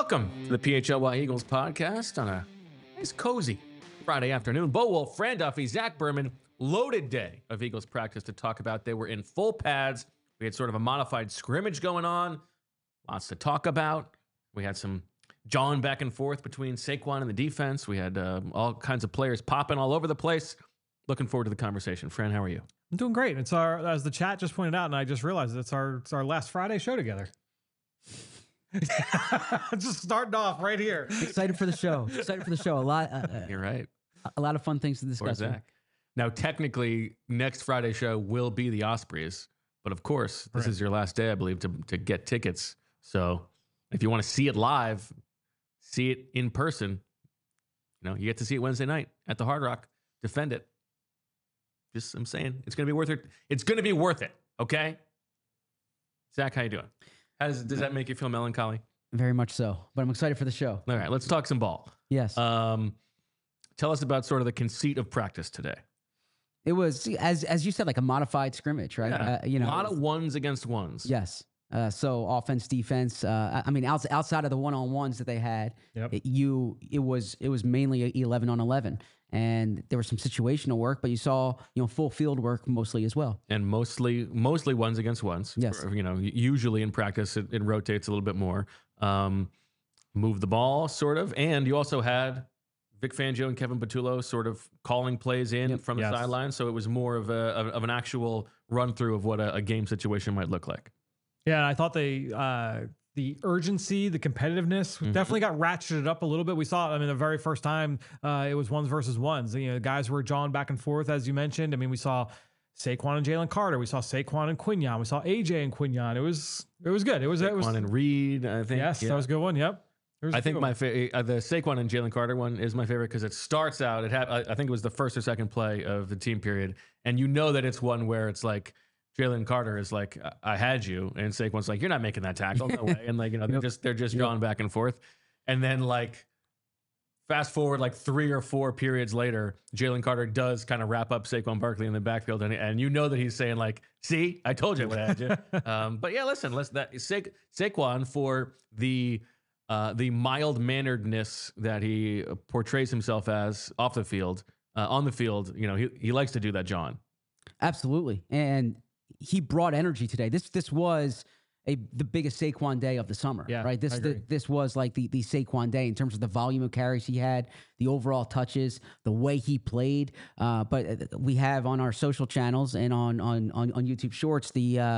Welcome to the PHLY Eagles podcast on a nice, cozy Friday afternoon. Bo Wolf, Fran Duffy, Zach Berman, loaded day of Eagles practice to talk about. They were in full pads. We had sort of a modified scrimmage going on. Lots to talk about. We had some jawing back and forth between Saquon and the defense. We had all kinds of players popping all over the place. Looking forward to the conversation. Fran, how are you? I'm doing great. It's our, as the chat just pointed out, and I just realized it's our last Friday show together. Just starting off right here. Excited for the show. Excited for the show. A lot. You're right. A lot of fun things to discuss. Zach. Now, technically, next Friday show will be the Ospreys, but of course, this is your last day, I believe, to get tickets. So, if you want to see it live, see it in person, you get to see it Wednesday night at the Hard Rock. Defend it. Just, I'm saying, it's going to be worth it. It's going to be worth it. Okay, Zach, how you doing? Does that make you feel melancholy? Very much so, but I'm excited for the show. All right, let's talk some ball. Yes. Tell us about sort of the conceit of practice today. It was, as you said, like a modified scrimmage, right? Yeah. A lot of ones against ones. Yes. So offense, defense. Outside of the one-on-ones that they had, it was mainly 11 on 11, and there was some situational work, but you saw full field work mostly as well, and mostly ones against ones. Yes. Usually in practice it rotates a little bit more. Move the ball sort of, and you also had Vic Fangio and Kevin Patullo sort of calling plays in from the sideline, so it was more of an actual run through of what a game situation might look like. Yeah, I thought the urgency, the competitiveness definitely got ratcheted up a little bit. We saw, the very first time it was ones versus ones. Guys were jawing back and forth, as you mentioned. We saw Saquon and Jalen Carter. We saw Saquon and Quinyon. We saw AJ and Quinyon. It was good. It was Saquon and Reed, I think. Yes, that was a good one. Yep. I think my the Saquon and Jalen Carter one is my favorite because it starts out. I think it was the first or second play of the team period, and that it's one where it's like Jalen Carter is like, I had you, and Saquon's like, you're not making that tackle, no way, and they're just drawing back and forth, and then fast forward 3 or 4 periods later, Jalen Carter does kind of wrap up Saquon Barkley in the backfield, and that he's saying see, I told you I would have had you. But yeah, listen, Saquon for the mild-manneredness that he portrays himself as off the field, on the field, he likes to do that, John. Absolutely, and he brought energy today. This was the biggest Saquon day of the summer, right? This was like the Saquon day in terms of the volume of carries he had, the overall touches, the way he played. But we have on our social channels and on YouTube Shorts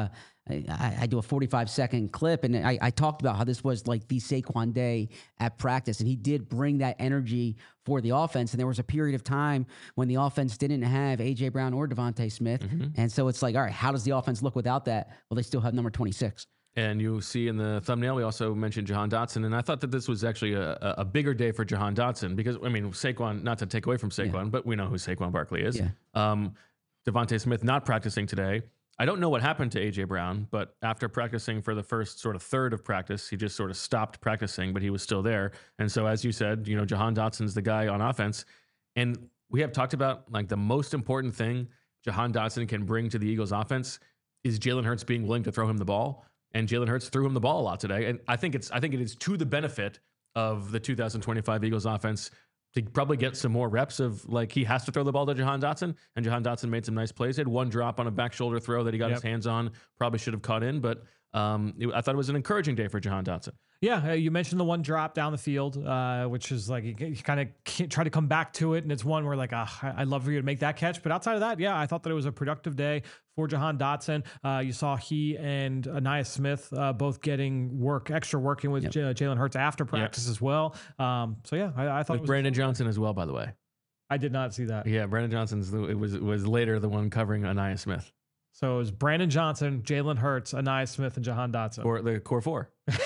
I do a 45-second clip, and I talked about how this was like the Saquon day at practice, and he did bring that energy for the offense. And there was a period of time when the offense didn't have A.J. Brown or Devontae Smith, and so it's like, all right, how does the offense look without that? Well, they still have number 26. And you see in the thumbnail, we also mentioned Jahan Dotson, and I thought that this was actually a bigger day for Jahan Dotson because, Saquon, not to take away from Saquon, but we know who Saquon Barkley is. Yeah. Devontae Smith not practicing today. I don't know what happened to A.J. Brown, but after practicing for the first sort of third of practice, he just sort of stopped practicing, but he was still there. And so, as you said, Jahan Dotson's the guy on offense. And we have talked about the most important thing Jahan Dotson can bring to the Eagles offense is Jalen Hurts being willing to throw him the ball. And Jalen Hurts threw him the ball a lot today. And I think it is to the benefit of the 2025 Eagles offense to probably get some more reps of he has to throw the ball to Jahan Dotson, and Jahan Dotson made some nice plays. He had one drop on a back shoulder throw that he got his hands on, probably should have caught in, but I thought it was an encouraging day for Jahan Dotson. Yeah, you mentioned the one drop down the field, which is you kind of try to come back to it, and it's one where I'd love for you to make that catch. But outside of that, I thought that it was a productive day for Jahan Dotson. You saw he and Ainias Smith both getting extra working with Jalen Hurts after practice as well. I thought with Brandon Johnson as well, by the way. I did not see that. Yeah, Brandon Johnson's it was later the one covering Ainias Smith. So it was Brandon Johnson, Jalen Hurts, Ainias Smith, and Jahan Dotson. Or the core four.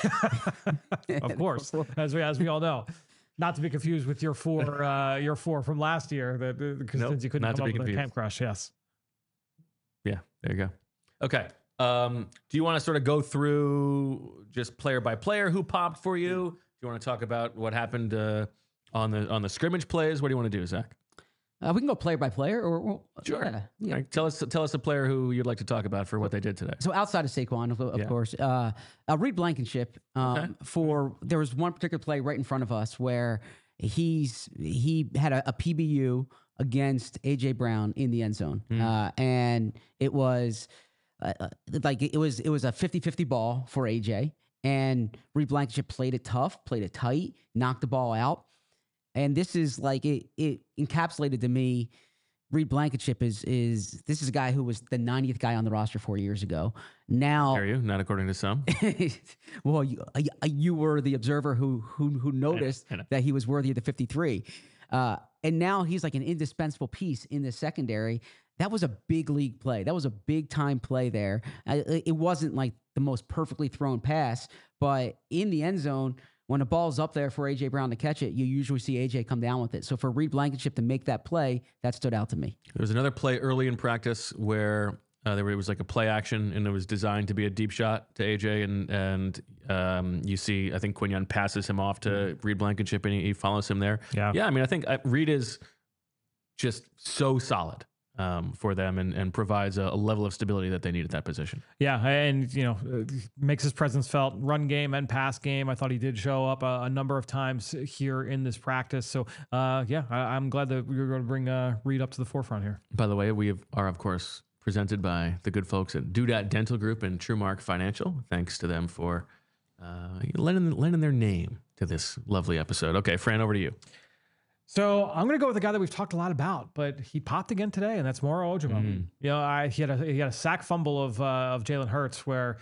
Of course, as we all know. Not to be confused with your four from last year, since you couldn't come up with a camp crush. Yes. Yeah, there you go. Okay. Do you want to sort of go through just player by player who popped for you? Do you want to talk about what happened on the scrimmage plays? What do you want to do, Zach? We can go player by player, or sure. Yeah. Right. Tell us a player who you'd like to talk about for what they did today. So outside of Saquon, of course, Reed Blankenship. There was one particular play right in front of us where he had a PBU against AJ Brown in the end zone, and it was it was a 50-50 ball for AJ, and Reed Blankenship played it tough, played it tight, knocked the ball out. And this is it encapsulated to me. Reed Blankenship is a guy who was the 90th guy on the roster 4 years ago. Now, are you not according to some? Well, you were the observer who noticed I know. That he was worthy of the 53, and now he's like an indispensable piece in the secondary. That was a big league play. That was a big time play there. It wasn't like the most perfectly thrown pass, but in the end zone, when a ball's up there for A.J. Brown to catch it, you usually see A.J. come down with it. So for Reed Blankenship to make that play, that stood out to me. There was another play early in practice where it was like a play action, and it was designed to be a deep shot to A.J. And you see, I think Quinyon passes him off to Reed Blankenship, and he follows him there. Yeah. I mean, I think Reed is just so solid for them and provides a level of stability that they need at that position. Yeah, and makes his presence felt run game and pass game. I thought he did show up a number of times here in this practice. So I'm glad that we were going to bring Reed up to the forefront here. By the way, we are of course presented by the good folks at Dudat Dental Group and TrueMark Financial. Thanks to them for lending their name to this lovely episode. Okay, Fran, over to you. So I'm going to go with a guy that we've talked a lot about, but he popped again today, and that's Moro Ojomo. He had a sack fumble of Jalen Hurts where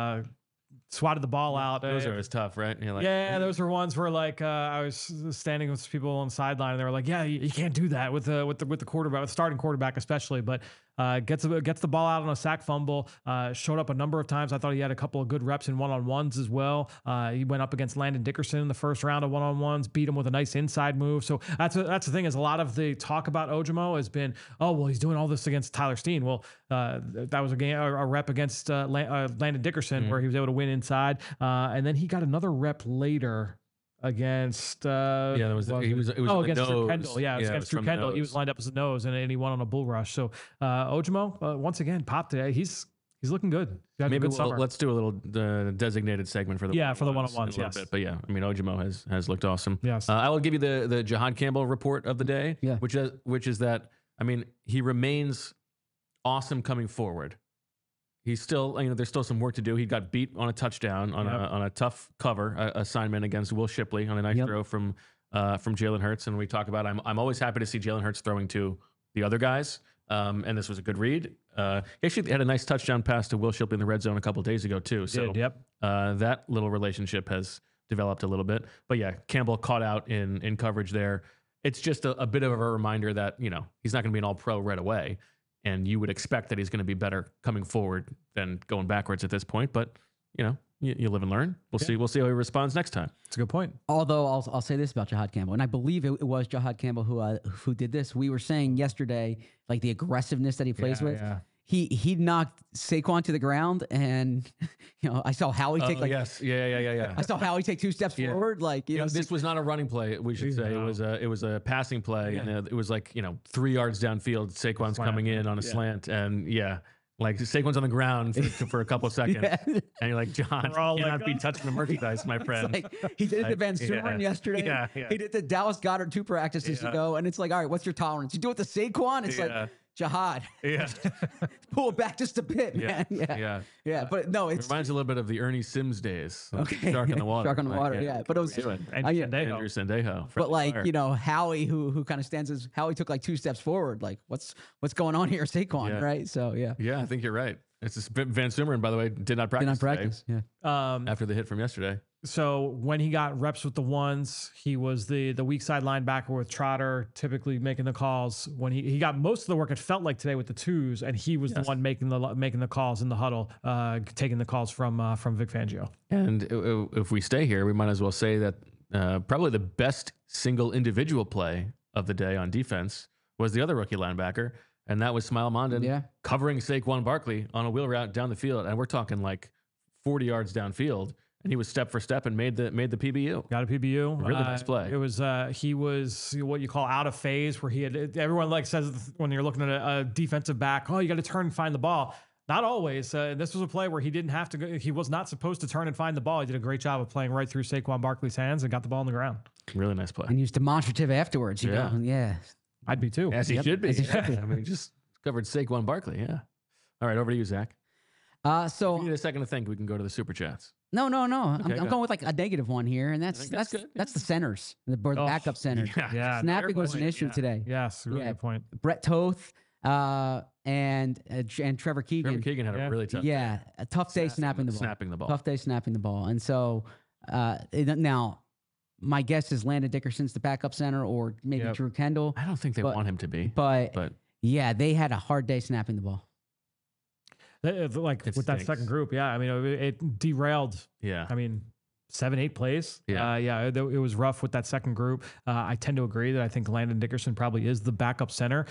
swatted the ball out. Those are always tough, right? Those were ones where I was standing with people on the sideline, and they were like, "Yeah, you can't do that with the quarterback, with starting quarterback especially." But gets the ball out on a sack fumble. Showed up a number of times. I thought he had a couple of good reps in one-on-ones as well. He went up against Landon Dickerson in the first round of one-on-ones, beat him with a nice inside move. So that's the thing, is a lot of the talk about Ojomo has been, oh well, he's doing all this against Tyler Steen. Well, that was a rep against Landon Dickerson where he was able to win inside, and then he got another rep later against against Drew Kendall. Yeah, it was against Drew Kendall. He was lined up as a nose, and he won on a bull rush. So Ojomo once again popped today. He's looking good. Maybe let's do a little designated segment for the one-on-ones. Yes, but I mean, Ojomo has looked awesome. Yes, I will give you the Jahan Campbell report of the day. Yeah. which is that, I mean, he remains awesome coming forward. He's still, there's still some work to do. He got beat on a touchdown on a tough cover assignment against Will Shipley on a nice throw from Jalen Hurts. And we talk about, I'm always happy to see Jalen Hurts throwing to the other guys. And this was a good read. He actually had a nice touchdown pass to Will Shipley in the red zone a couple days ago too. So that little relationship has developed a little bit. But yeah, Campbell caught out in coverage there. It's just a bit of a reminder that, he's not going to be an all-pro right away. And you would expect that he's going to be better coming forward than going backwards at this point. But, you live and learn. We'll see. We'll see how he responds next time. That's a good point. Although I'll say this about Jahan Campbell, and I believe it was Jahan Campbell who did this. We were saying yesterday, like the aggressiveness that he plays with. Yeah. He knocked Saquon to the ground, and I saw Howie take I saw Howie take 2 steps forward. This was not a running play. We should say it was a passing play, and it was 3 yards downfield. Saquon's coming in on a slant, and Saquon's on the ground for a couple of seconds, and you're like, John, you cannot be touching the merchandise, my friend. He did it to Van Sumeren yesterday. Yeah. He did the Dallas Goedert 2 practices ago, and it's like, all right, what's your tolerance? You do it to Saquon, it's like, Jihad. Yeah. Pull it back just a bit, man. Yeah. But no, it reminds a little bit of the Ernie Sims days. Okay. Shark in the water. Shark on the water, yeah. But it was Andrew Sendejo. But Howie, who kind of stands Howie took 2 steps forward. What's going on here, Saquon, right? So Yeah, I think you're right. It's just Van Sumeren, by the way, did not practice. Today, after the hit from yesterday. So when he got reps with the ones, he was the weak side linebacker with Trotter, typically making the calls. When he got most of the work, it felt like today with the 2s, and he was the one making the calls in the huddle, taking the calls from Vic Fangio. And if we stay here, we might as well say that probably the best single individual play of the day on defense was the other rookie linebacker, and that was Smile Mondon covering Saquon Barkley on a wheel route down the field, and we're talking 40 yards downfield. and he was step for step and made the PBU. Got a PBU. Really nice play. It was he was what you call out of phase, where he had everyone like says when you're looking at a defensive back, oh, you got to turn and find the ball. Not always. This was a play where he didn't have to go. He was not supposed to turn and find the ball. He did a great job of playing right through Saquon Barkley's hands and got the ball on the ground. Really nice play. And he was demonstrative afterwards. Yeah. I'd be too. As he should be. I mean, he just covered Saquon Barkley. Yeah. All right, over to you, Zach. So if you need a second to think, we can go to the super chats. No. Okay, I'm going with like a negative one here, and that's good. That's the centers, the backup centers. Yeah. Snapping was an issue today. Yes, really good point. Brett Toth and Trevor Keegan. Trevor Keegan had a really tough day. A tough day snapping the ball. Tough day snapping the ball. And so now my guess is Landon Dickerson's the backup center, or maybe Drew Kendall. I don't think they want him to be. But yeah, they had a hard day snapping the ball. Like with that second group, I mean, it derailed. Yeah, I mean, 7-8 plays. It was rough with that second group. I tend to agree that I think Landon Dickerson probably is the backup center.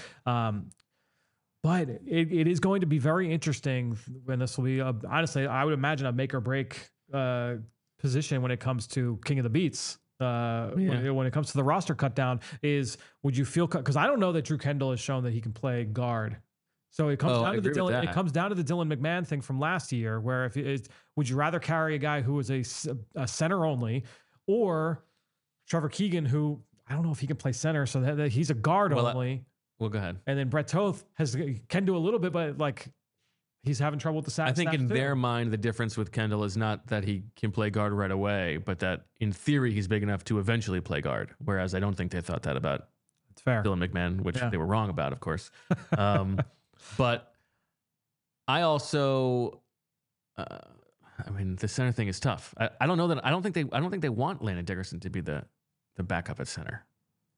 But it is going to be very interesting, and this will be honestly, I would imagine a make or break position when it comes to King of the Beats. When it comes to the roster cut down, is would you feel, because I don't know that Drew Kendall has shown that he can play guard. So it comes down to the Dylan McMahon thing from last year, where would you rather carry a guy who is a center only, or Trevor Keegan, who I don't know if he can play center, so that he's a guard only. Well, go ahead. And then Brett Toth can do a little bit, but like he's having trouble with the sack. I think in their mind, the difference with Kendall is not that he can play guard right away, but that in theory he's big enough to eventually play guard. Whereas I don't think they thought that about Dylan McMahon, which they were wrong about, of course. But I also, I mean, the center thing is tough. I don't know that. I don't think they want Landon Dickerson to be the backup at center.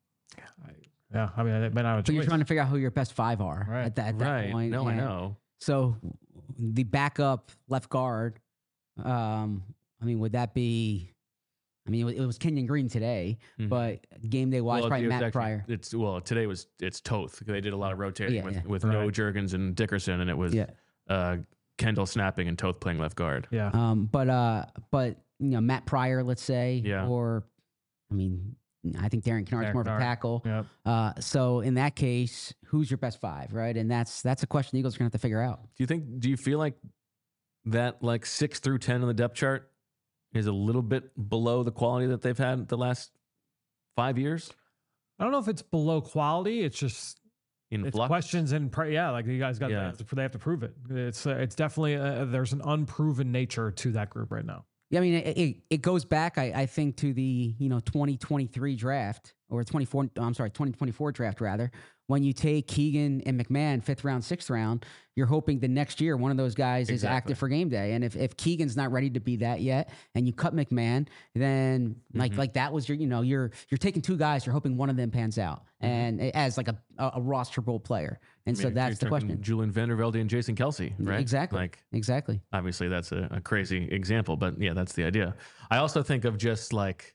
I mean, it may not have a choice. You're trying to figure out who your best five are at that point. No, I know. So the backup left guard. I mean, would that be? I mean, it was Kenyon Green today, but game day wise, probably Matt Pryor. Today it's Toth. They did a lot of rotating with no Juergens and Dickerson, and it was Kendall snapping and Toth playing left guard. Yeah. But Matt Pryor, let's say, or I mean, I think Darren Kennard's more of a tackle. Yep. So in that case, who's your best five, right? And that's a question the Eagles are gonna have to figure out. Do you feel like that, like 6 through 10 on the depth chart, is a little bit below the quality that they've had the last 5 years? I don't know if it's below quality. It's just in flux. Questions and like you guys got. They have to prove it. It's definitely there's an unproven nature to that group right now. Yeah, I mean it goes back I think to the 2023 draft or 2024 draft rather. When you take Keegan and McMahon 5th round, 6th round, you're hoping the next year one of those guys is active for game day. And if Keegan's not ready to be that yet, and you cut McMahon, then like that was you're taking two guys, you're hoping one of them pans out and as like a rosterable player. And so that's the question. Julian Vandervelde and Jason Kelce, right? Exactly. Exactly. Obviously, that's a crazy example, but yeah, that's the idea. I also think of just like,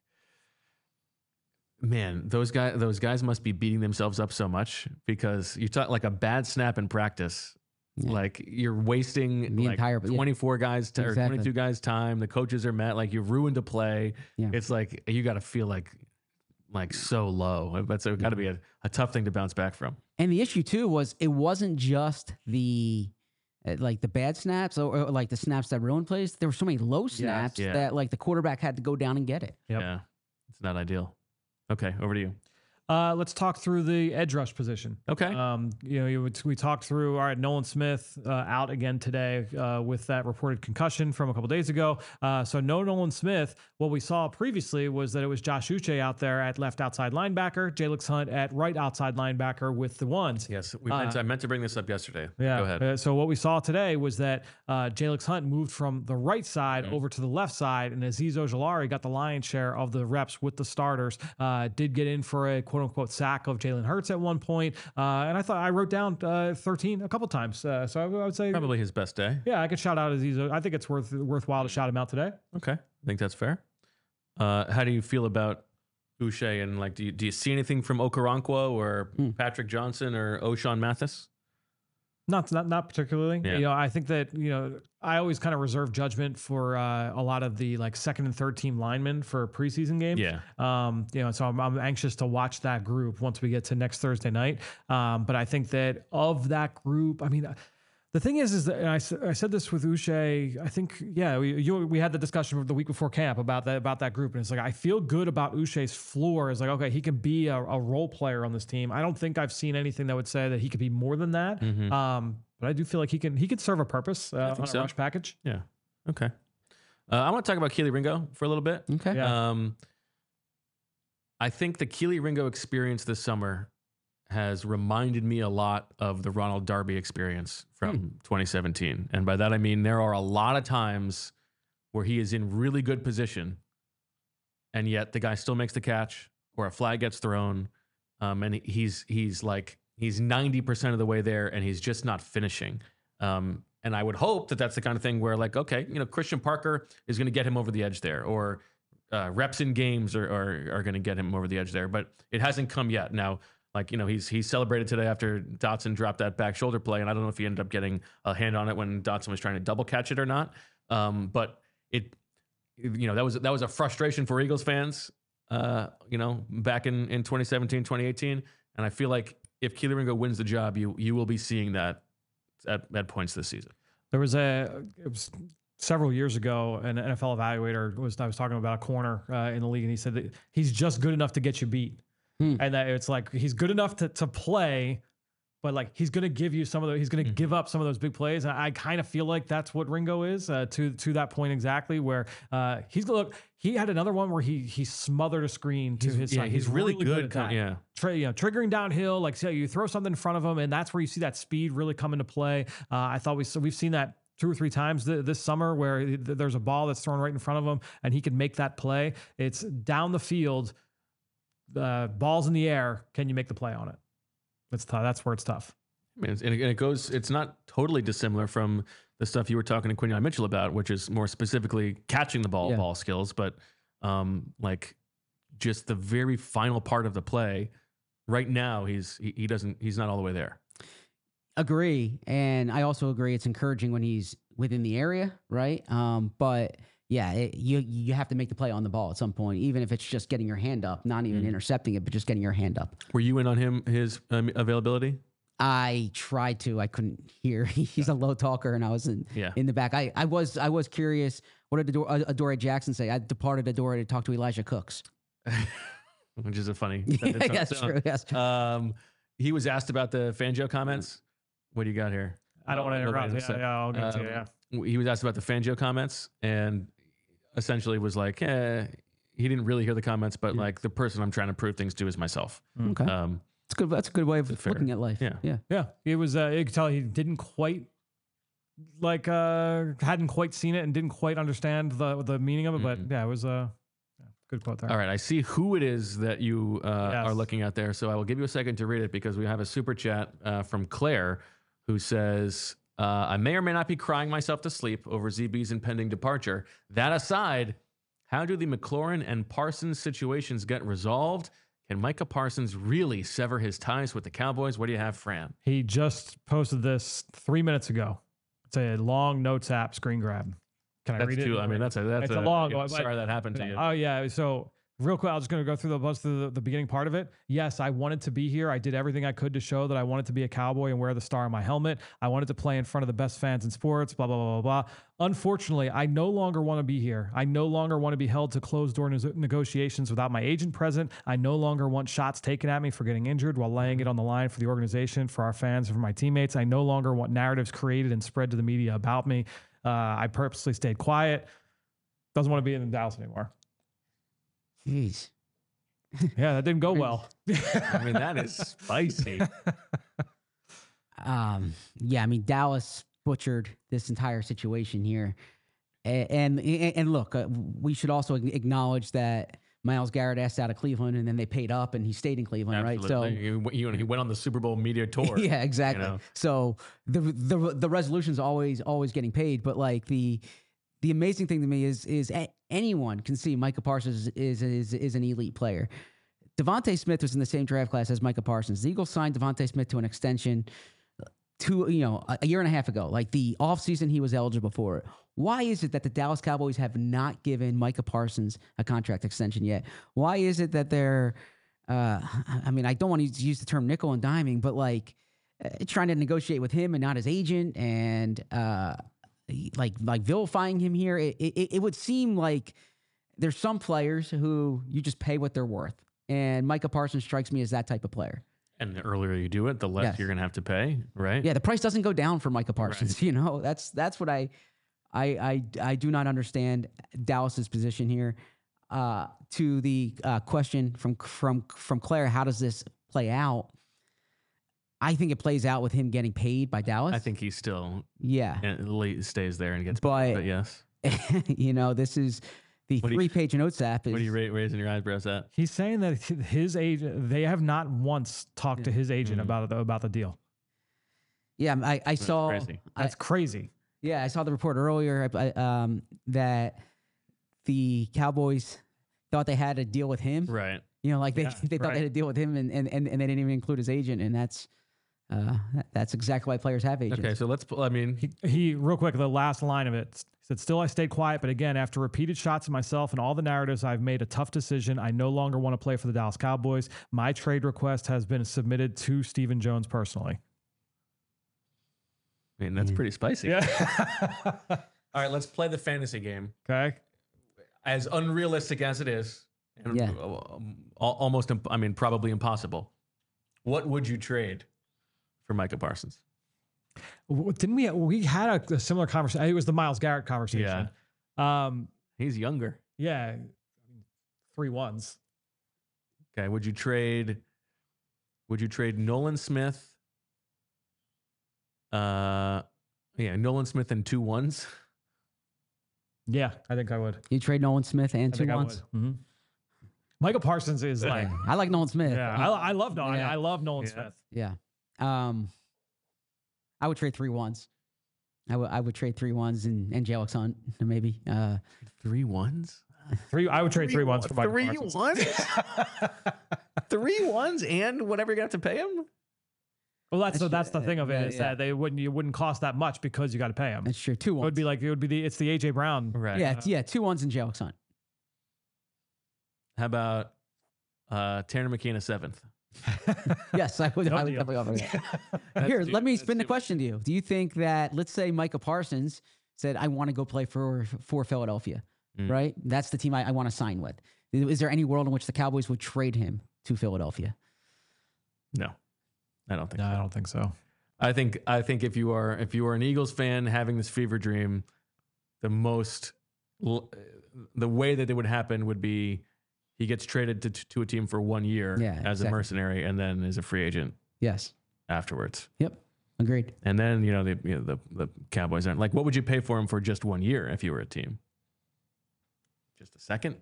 man, those guys must be beating themselves up so much, because you talk like a bad snap in practice. Yeah. Like you're wasting the entire 24 guys or 22 guys time. The coaches are mad. Like you've ruined a play. Yeah. It's like you got to feel like so low. That's got to be a tough thing to bounce back from. And the issue too was it wasn't just the bad snaps or like the snaps that ruined plays. There were so many low snaps that like the quarterback had to go down and get it. Yep. Yeah, it's not ideal. Okay, over to you. Let's talk through the edge rush position. Okay. We talked through, all right, Nolan Smith out again today with that reported concussion from a couple days ago. So no Nolan Smith. What we saw previously was that it was Josh Uche out there at left outside linebacker, Jalix Hunt at right outside linebacker with the ones. Yes, I meant to bring this up yesterday. Yeah. Go ahead. So what we saw today was that Jalix Hunt moved from the right side over to the left side, and Azeez Ojulari got the lion's share of the reps with the starters. Did get in for a quote-unquote sack of Jalen Hurts at one point. And I thought I wrote down 13 a couple times. So I would say probably his best day. Yeah, I could shout out Azeez. I think it's worthwhile to shout him out today. Okay. I think that's fair. How do you feel about Uche, and like, do you see anything from Okoronkwo or Patrick Johnson or O'Shawn Mathis? Not particularly. Yeah. I think that I always kind of reserve judgment for a lot of the like second and third team linemen for preseason games. Yeah. So I'm anxious to watch that group once we get to next Thursday night. But I think that of that group, I mean, the thing is that, and I said this with Uche. I think, we had the discussion the week before camp about that group, and it's like I feel good about Uche's floor. It's like, okay, he can be a role player on this team. I don't think I've seen anything that would say that he could be more than that. But I do feel like he could serve a purpose on a rush package. Yeah. Okay. I want to talk about Kelee Ringo for a little bit. Okay. Yeah. I think the Kelee Ringo experience this summer has reminded me a lot of the Ronald Darby experience from 2017. And by that, I mean, there are a lot of times where he is in really good position and yet the guy still makes the catch or a flag gets thrown. And he's 90% of the way there and he's just not finishing. And I would hope that that's the kind of thing where like, okay, Christian Parker is going to get him over the edge there, or reps in games are going to get him over the edge there, but it hasn't come yet. Now, like, he's celebrated today after Dotson dropped that back shoulder play. And I don't know if he ended up getting a hand on it when Dotson was trying to double catch it or not. But that was a frustration for Eagles fans, back in 2017, 2018. And I feel like if Kelee Ringo wins the job, you will be seeing that at points this season. It was several years ago, an NFL evaluator I was talking about a corner in the league, and he said that he's just good enough to get you beat. And that it's like he's good enough to play, but like he's going to give you he's going to give up some of those big plays. And I kind of feel like that's what Ringo is to that point exactly, where he had another one where he smothered a screen to his side. He's really good at that. Triggering downhill, like you throw something in front of him, and that's where you see that speed really come into play. I thought we've seen that 2 or 3 times this summer where there's a ball that's thrown right in front of him and he can make that play. It's down the field. Balls in the air, can you make the play on it? That's where it's tough. I mean, it's not totally dissimilar from the stuff you were talking to Quinyon Mitchell about, which is more specifically catching the ball skills, but like just the very final part of the play. Right now, he's not all the way there. Agree, and I also agree it's encouraging when he's within the area, right? But yeah, you have to make the play on the ball at some point, even if it's just getting your hand up, not even intercepting it, but just getting your hand up. Were you in on his availability? I tried to. I couldn't hear. He's a low talker, and I was in the back. I was curious. What did Adoree Jackson say? I departed Adoree to talk to Elijah Cooks, which is a funny. That's true. Yes. He was asked about the Fangio comments. What do you got here? I don't want to interrupt. I'll get to you. Yeah. He was asked about the Fangio comments and essentially was like, he didn't really hear the comments, but like the person I'm trying to prove things to is myself. Okay. That's good. That's a good way of looking at life. Yeah. It was, you could tell he didn't quite hadn't quite seen it and didn't quite understand the meaning of it, but it was good quote there. All right. I see who it is that you are looking at there. So I will give you a second to read it because we have a super chat from Claire who says, I may or may not be crying myself to sleep over ZB's impending departure. That aside, how do the McLaurin and Parsons situations get resolved? Can Micah Parsons really sever his ties with the Cowboys? What do you have, Fran? He just posted this 3 minutes ago. It's a long notes app screen grab. Can I read it? I mean, that's a long one. Sorry that happened to you. Oh, yeah. So real quick, I'm just going to go through the beginning part of it. Yes, I wanted to be here. I did everything I could to show that I wanted to be a Cowboy and wear the star on my helmet. I wanted to play in front of the best fans in sports, blah, blah, blah, blah, blah. Unfortunately, I no longer want to be here. I no longer want to be held to closed-door negotiations without my agent present. I no longer want shots taken at me for getting injured while laying it on the line for the organization, for our fans, and for my teammates. I no longer want narratives created and spread to the media about me. I purposely stayed quiet. Doesn't want to be in Dallas anymore. Jeez. Yeah, that didn't go well. I mean, that is spicy. Yeah, I mean, Dallas butchered this entire situation here. And look, we should also acknowledge that Myles Garrett asked out of Cleveland and then they paid up and he stayed in Cleveland, Absolutely. right? So he went on the Super Bowl media tour. Yeah, exactly. So the resolution's always getting paid, but like the amazing thing to me is anyone can see Micah Parsons is an elite player. Devontae Smith was in the same draft class as Micah Parsons. The Eagles signed Devontae Smith to an extension a year and a half ago, like the offseason he was eligible for it. Why is it that the Dallas Cowboys have not given Micah Parsons a contract extension yet? Why is it that they're, I mean, I don't want to use the term nickel and diming, but like trying to negotiate with him and not his agent and like vilifying him here? It would seem like there's some players who you just pay what they're worth. And Micah Parsons strikes me as that type of player. And the earlier you do it, the less you're going to have to pay, right? Yeah, the price doesn't go down for Micah Parsons. Right. You know, that's what I do not understand Dallas's position here. To the question from Claire, how does this play out? I think it plays out with him getting paid by Dallas. I think he still stays there and gets paid. But yes, you know, this is the 3-page notes app. What are you raising your eyebrows at? He's saying that his agent, they have not once talked to his agent about the deal. Yeah, I saw. Crazy. That's crazy. Yeah, I saw the report earlier that the Cowboys thought they had a deal with him. Right. You know, like they thought they had a deal with him, and they didn't even include his agent, and that's exactly why players have agents. Okay, so he real quick, the last line of it said, "Still, I stayed quiet, but again, after repeated shots at myself and all the narratives, I've made a tough decision. I no longer want to play for the Dallas Cowboys. My trade request has been submitted to Stephen Jones personally." I mean, that's pretty spicy. Yeah. All right, let's play the fantasy game. Okay. As unrealistic as it is, and almost, I mean, probably impossible. What would you trade for Micah Parsons? Didn't we had a similar conversation? It was the Myles Garrett conversation. Yeah. He's younger. Yeah. 3 1s. Okay. Would you trade Nolan Smith? Nolan Smith and 2 1s. Yeah, I think I would. You trade Nolan Smith and 2 1s? Mm-hmm. Micah Parsons is like... I like Nolan Smith. Yeah, I love Nolan. I love Nolan Smith. Yeah. I would trade 3 1s. I would trade 3 1s and J.L.X. Hunt, maybe. 3 1s? I would trade 3 1s for Micah Parsons. 3 1s? 3 1s and whatever you're going to have to pay him? Well, that's the thing of it is that you wouldn't cost that much because you got to pay him. That's true. 2 1s. It's the AJ Brown. Right. Yeah, 2 1s and J.L.X. Hunt. How about Tanner McKee a 7th? Yes, I would definitely offer that. Here, let me spin the question to you. Do you think that, let's say Micah Parsons said, I want to go play for Philadelphia, right? That's the team I want to sign with. Is there any world in which the Cowboys would trade him to Philadelphia? No, I don't think so. I don't think so. I think if you are an Eagles fan having this fever dream, the way that it would happen would be he gets traded to a team for 1 year as a mercenary and then is a free agent. Yes. Afterwards. Yep. Agreed. And then, the Cowboys aren't like, what would you pay for him for just 1 year if you were a team? Just a second?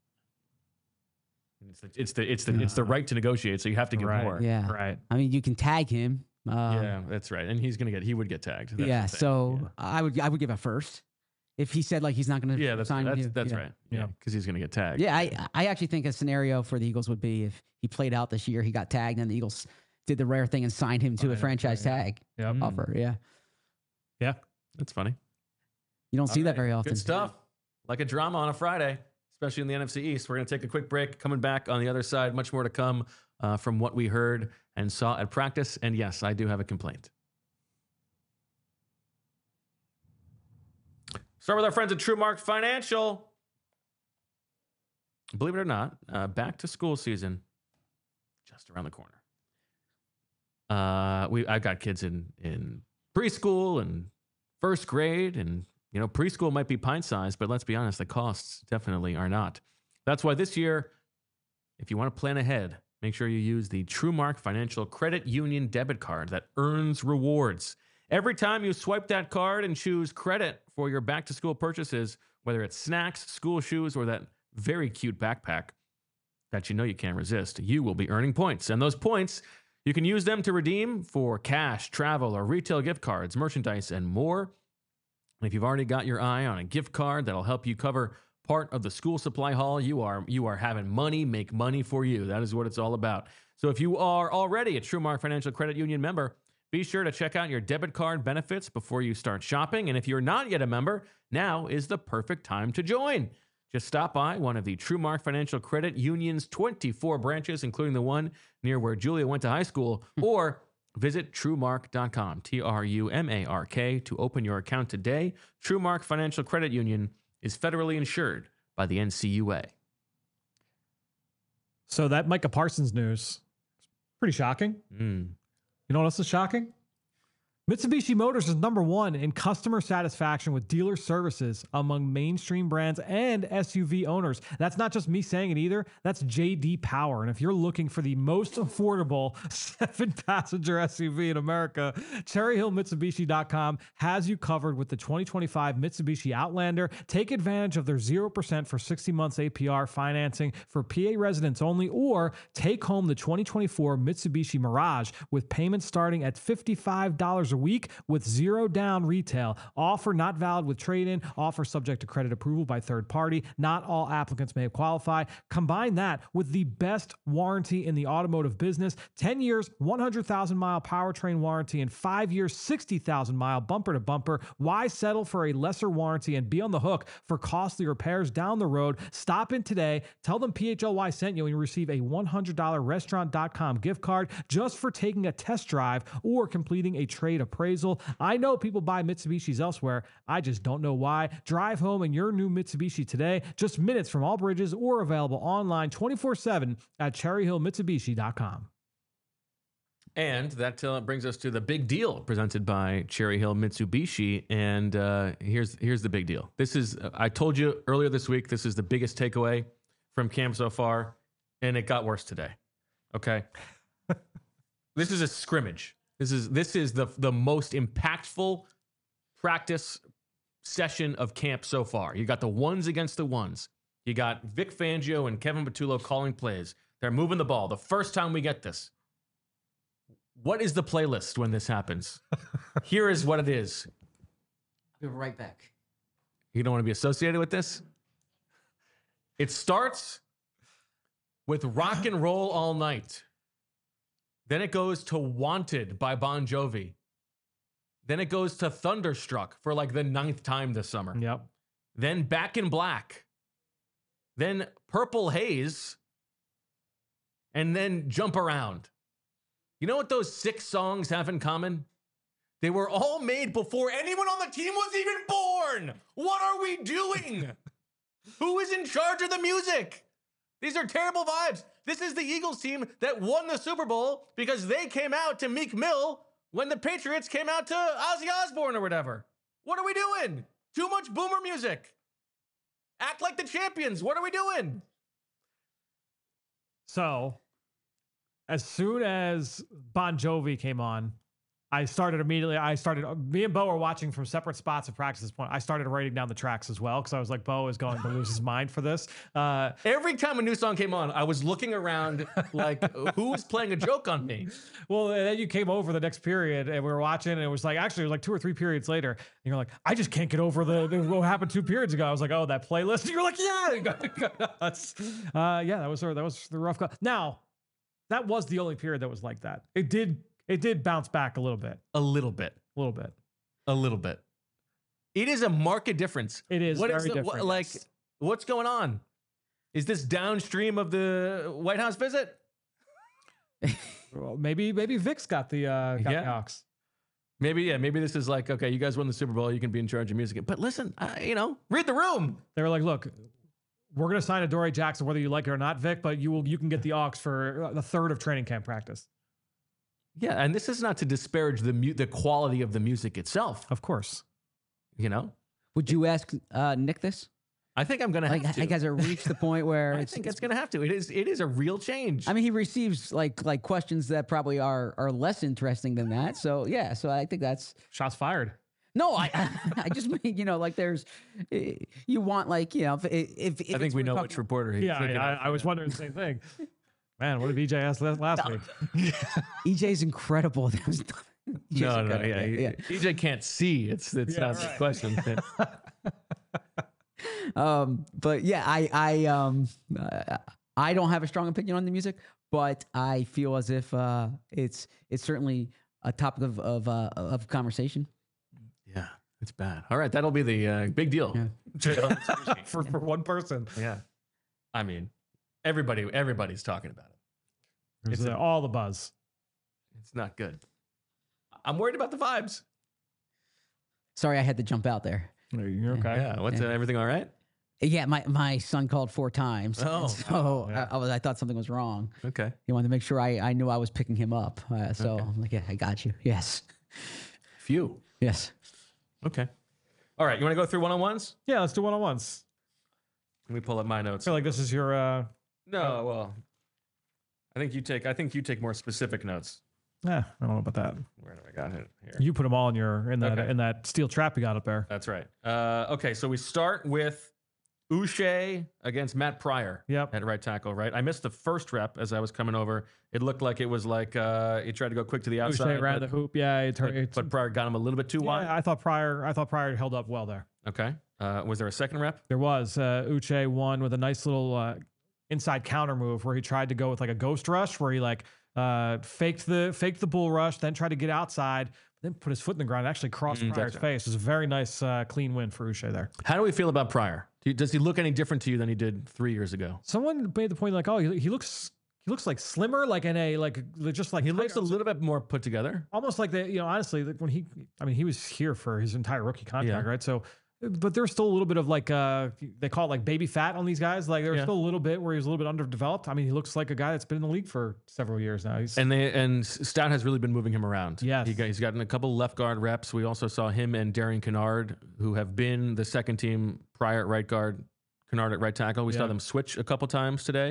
It's the right to negotiate, so you have to give more. Yeah. Right. I mean, you can tag him. Yeah, that's right. And he would get tagged. That's I would give a first. If he said like he's not going to sign with you. That's right. Yeah, because he's going to get tagged. Yeah, I actually think a scenario for the Eagles would be if he played out this year, he got tagged, and the Eagles did the rare thing and signed him to a franchise tag offer. Yeah. Yeah. That's funny. You don't see that very often. Good stuff. Like a drama on a Friday, especially in the NFC East. We're going to take a quick break. Coming back on the other side, much more to come from what we heard and saw at practice. And yes, I do have a complaint. Start with our friends at TrueMark Financial. Believe it or not, back to school season just around the corner. I've got kids in preschool and first grade, and preschool might be pint sized, but let's be honest, the costs definitely are not. That's why this year, if you want to plan ahead, make sure you use the TrueMark Financial Credit Union debit card that earns rewards. Every time you swipe that card and choose credit for your back-to-school purchases, whether it's snacks, school shoes, or that very cute backpack that you can't resist, you will be earning points. And those points, you can use them to redeem for cash, travel, or retail gift cards, merchandise, and more. And if you've already got your eye on a gift card that'll help you cover part of the school supply haul, you are having money make money for you. That is what it's all about. So if you are already a TrueMark Financial Credit Union member, Be sure to check out your debit card benefits before you start shopping. And if you're not yet a member, now is the perfect time to join. Just stop by one of the TrueMark Financial Credit Union's 24 branches, including the one near where Julia went to high school, or visit TrueMark.com, TruMark, to open your account today. TrueMark Financial Credit Union is federally insured by the NCUA. So that Micah Parsons news, pretty shocking. You know what else is shocking? Mitsubishi Motors is #1 in customer satisfaction with dealer services among mainstream brands and SUV owners. That's not just me saying it either. That's JD Power. And if you're looking for the most affordable 7-passenger SUV in America, CherryHillMitsubishi.com has you covered with the 2025 Mitsubishi Outlander. Take advantage of their 0% for 60 months APR financing for PA residents only, or take home the 2024 Mitsubishi Mirage with payments starting at $55 a week with 0 down retail. Offer not valid with trade-in. Offer subject to credit approval by third party. Not all applicants may qualify. Combine that with the best warranty in the automotive business. 10 years, 100,000-mile powertrain warranty, and 5 years, 60,000-mile bumper-to-bumper. Why settle for a lesser warranty and be on the hook for costly repairs down the road? Stop in today. Tell them PHLY sent you and you receive a $100 restaurant.com gift card just for taking a test drive or completing a trade appraisal. I know people buy Mitsubishis elsewhere. I just don't know why. Drive home in your new Mitsubishi today, just minutes from all bridges, or available online 24/7 at CherryHillMitsubishi.com. And that brings us to the big deal presented by Cherry Hill Mitsubishi. And here's the big deal. This is, I told you earlier this week, this is the biggest takeaway from camp so far, and it got worse today. Okay. This is a scrimmage. This is the most impactful practice session of camp so far. You got the ones against the ones. You got Vic Fangio and Kevin Patullo calling plays. They're moving the ball. The first time we get this. What is the playlist when this happens? Here is what it is. Be right back. You don't want to be associated with this? It starts with Rock and Roll All Night. Then it goes to Wanted by Bon Jovi. Then it goes to Thunderstruck for like the 9th time this summer. Yep. Then Back in Black. Then Purple Haze. And then Jump Around. You know what those 6 songs have in common? They were all made before anyone on the team was even born. What are we doing? Who is in charge of the music? These are terrible vibes. This is the Eagles team that won the Super Bowl because they came out to Meek Mill when the Patriots came out to Ozzy Osbourne or whatever. What are we doing? Too much boomer music. Act like the champions. What are we doing? So, as soon as Bon Jovi came on, I started immediately. Me and Bo were watching from separate spots of practice at this point. I started writing down the tracks as well because I was like, Bo is going to lose his mind for this. Every time a new song came on, I was looking around like, who's playing a joke on me? Well, and then you came over the next period and we were watching, and it was like 2 or 3 periods later. And you're like, I just can't get over what happened 2 periods ago. I was like, oh, that playlist. And you're like, yeah. Yeah, that was the rough cut. Now, that was the only period that was like that. It did bounce back a little bit. A little bit. It is a marked difference. It is very different. Yes. What's going on? Is this downstream of the White House visit? Well, maybe Vic's got the Hawks. Maybe this is like, okay, you guys won the Super Bowl, you can be in charge of music. But listen, read the room. They were like, look, we're going to sign Adoree Jackson whether you like it or not, Vic, but you can get the aux for the 3rd of training camp practice. Yeah, and this is not to disparage the quality of the music itself. Of course. Would you ask Nick this? I think I'm going to have to. Has it reached the point where I think it's going to have to. It is a real change. I mean, he receives like questions that probably are less interesting than that. So yeah, so I think that's shots fired. No, I just mean, like there's, you want like, if I think we know which reporter he's thinking of. I was wondering the same thing. Man, what did EJ ask last week? EJ's incredible. No, EJ can't see. It's not the question. But yeah, I don't have a strong opinion on the music, but I feel as if it's certainly a topic of conversation. Yeah, it's bad. All right, that'll be the big deal for one person. Yeah, I mean, everybody's talking about it. It's all the buzz. It's not good. I'm worried about the vibes. Sorry, I had to jump out there. You're okay. Yeah, what's everything all right? Yeah, my son called 4 times. Oh, so yeah. I thought something was wrong. Okay. He wanted to make sure I knew I was picking him up. So Okay. I'm like, yeah, I got you. Yes. Phew. Yes. Okay. All right, you want to go through one-on-ones? Yeah, let's do one-on-ones. Let me pull up my I notes. feel like this is your No, well, I think you take more specific notes. I don't know about that. Where do I got it here? You put them all in that Okay. in that steel trap you got up there. That's right. Okay, so we start with Uche against Matt Pryor. Yep. At right tackle, right? I missed the first rep as I was coming over. It looked like it was like he tried to go quick to the outside. Uche around the hoop. Yeah, but Pryor got him a little bit too wide. yeah, I thought Pryor held up well there. Okay. Was there a second rep? There was Uche won with a nice little inside counter move where he tried to go with like a ghost rush where he like faked the bull rush, then tried to get outside, then put his foot in the ground and actually crossed Pryor's right. face. It was a very nice clean win for Uche there. How do we feel about Pryor? Does he look any different to you than he did 3 years ago? Someone made the point like, oh, he looks like slimmer, like in a just like He looks a little bit more put together. almost like honestly, like when he was here for his entire rookie contract, Yeah. right? So, but there's still a little bit of like they call it like baby fat on these guys. Like there's Yeah. still a little bit where he's a little bit underdeveloped. I mean, he looks like a guy that's been in the league for several years now. And Stout has really been moving him around. Yes. He's gotten a couple left guard reps. We also saw him and Darian Kennard, who have been the second team Pryor at right guard, Kennard at right tackle. We saw Yeah. them switch a couple times today.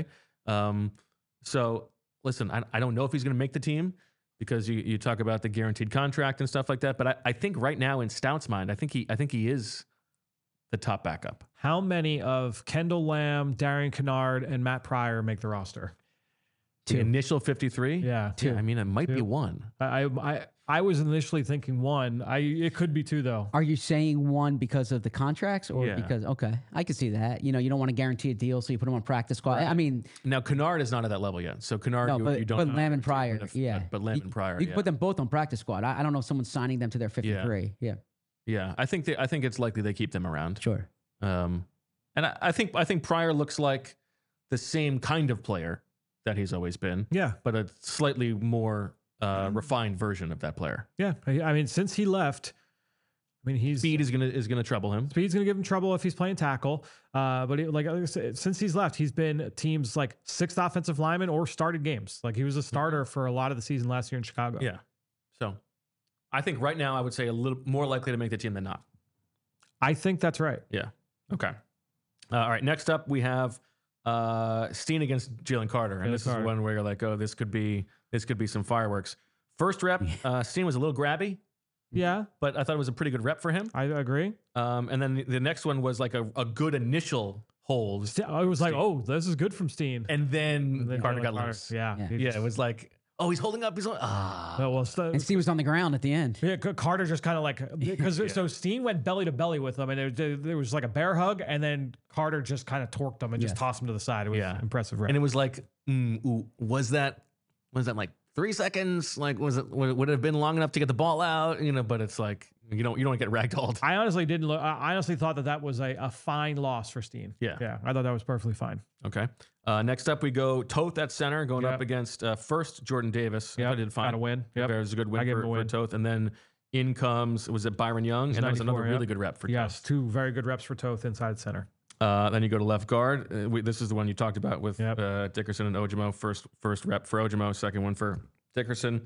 So listen, I don't know if he's going to make the team because you talk about the guaranteed contract and stuff like that. But I think right now in Stout's mind, I think he is the top backup. How many of Kendall Lamb, Darian Kennard, and Matt Pryor make the roster? The initial 53? Yeah, Yeah, I mean, it might be one. I was initially thinking one. It could be two though. Are you saying one because of the contracts or Yeah. because, okay, I can see that. You don't want to guarantee a deal, so you put him on practice squad. I mean, Now, Kennard is not at that level yet. So Kennard, no, you don't but know. Lamb and Pryor, yeah. But Lamb and Pryor, You can yeah. put them both on practice squad. I don't know if someone's signing them to their 53. Yeah, Yeah, I think it's likely they keep them around. sure. And I think Pryor looks like the same kind of player that he's always been, Yeah, but a slightly more refined version of that player. yeah. I mean, since he left, I mean, Speed is gonna trouble him. Speed's going to give him trouble if he's playing tackle. But like I said, since he's left, he's been teams like 6th offensive lineman or started games. Like he was a starter for a lot of the season last year in Chicago. Yeah. So I think right now I would say a little more likely to make the team than not. I think that's right. Yeah. Okay. All right. Next up, we have Steen against Jalen Carter, and Jalen this Carter. is one where you're like, oh, this could be some fireworks. First rep, Steen was a little grabby, Yeah, but I thought it was a pretty good rep for him. I agree. And then the next one was like a good initial hold, I was like, oh, this is good from Steen. and then Carter Jalen got Carter, loose. Yeah. Yeah. He Yeah, just- it was like, oh, he's holding up. And Steve was on the ground at the end. Yeah, Carter just kind of like because so Steen went belly to belly with him, and there was like a bear hug, and then Carter just kind of torqued him and just Yes. tossed him to the side. It was impressive. Rep. And it was like, was that like 3 seconds? Like, would it have been long enough to get the ball out? But it's like you don't get ragdolled. I honestly didn't look. I honestly thought that was a fine loss for Steen. Yeah. yeah, I thought that was perfectly fine. Okay. Next up, we go Toth at center, going up against first Jordan Davis. Yeah, I did fine. got a win. Yep. Yep. It was a good I win gave for him a win. Toth. And then in comes, was it Byron Young? And that was another 94, really good rep for Yes, Toth. 2 very good reps for Toth inside center. Then you go to left guard. This is the one you talked about with Yep. Dickerson and Ojimo. First rep for Ojimo, second one for Dickerson.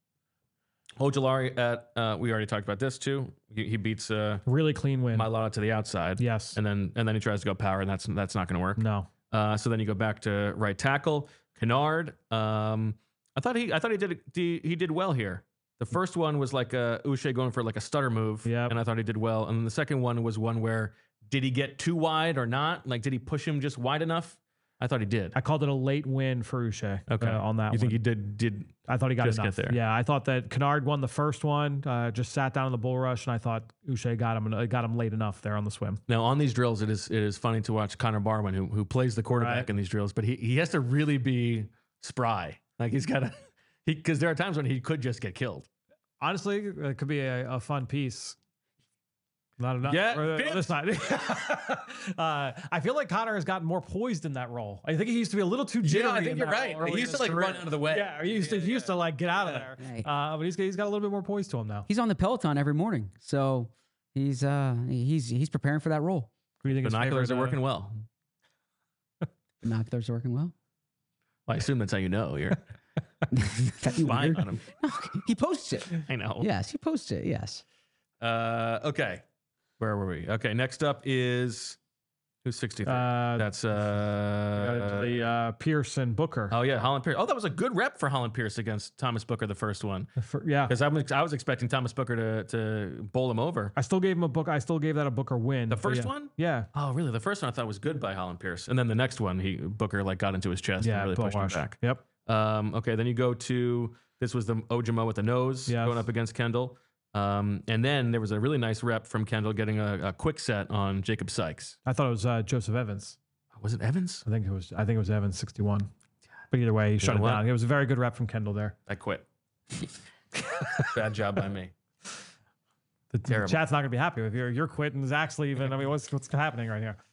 Ojolari at we already talked about this too. He beats Really clean win. Mailata to the outside. Yes. And then he tries to go power, and that's not going to work. No. So then you go back to right tackle, Kennard. I thought he did well here. The first one was like Uche going for like a stutter move, Yep. and I thought he did well. And then the second one was one where did he get too wide or not? Like, did he push him just wide enough? I thought he did. I called it a late win for Uche. Okay. On that. You think one. he did? I thought he got just enough. get there? Yeah, I thought that Kennard won the first one. Just sat down in the bull rush, and I thought Uche got him late enough there on the swim. Now on these drills, it is funny to watch Connor Barwin, who plays the quarterback Right. in these drills, but he has to really be spry. Like he's got to, because there are times when he could just get killed. Honestly, it could be a fun piece. Not enough. Yeah, For the other side. I feel like Connor has gotten more poised in that role. I think he used to be a little too jittery. I think you're right. He used to like run out of the way. Yeah, he used to like get out of there. Right. But he's got a little bit more poise to him now. He's on the Peloton every morning, so he's preparing for that role. Who do you think Binoculars are working well. Binoculars are working well. Well, I assume that's how you know you're That'd be lying weird. on him. No, he posts it. I know. Yes, he posts it. Yes. Okay. Where were we? Okay. Next up is who's 63? That's the Pierce and Booker. oh yeah, Holland Pierce. Oh, that was a good rep for Holland Pierce against Thomas Booker, the first one. Yeah. Because I was expecting Thomas Booker to bowl him over. I still gave him a book. I still gave that a Booker win. The first yeah. one? Yeah. Oh, really? The first one I thought was good by Holland Pierce, and then the next one, Booker like got into his chest and really pushed him back. Yep. Okay, then you go to this was the Ojimo with the nose going up against Kendall. And then there was a really nice rep from Kendall getting a quick set on Jacob Sykes. I thought it was Joseph Evans. Was it Evans? I think it was Evans 61. But either way, he shut it down. It was a very good rep from Kendall there. I quit. Bad job by me. The chat's not gonna be happy with you. You're quitting. Zach's leaving. I mean, what's happening right here?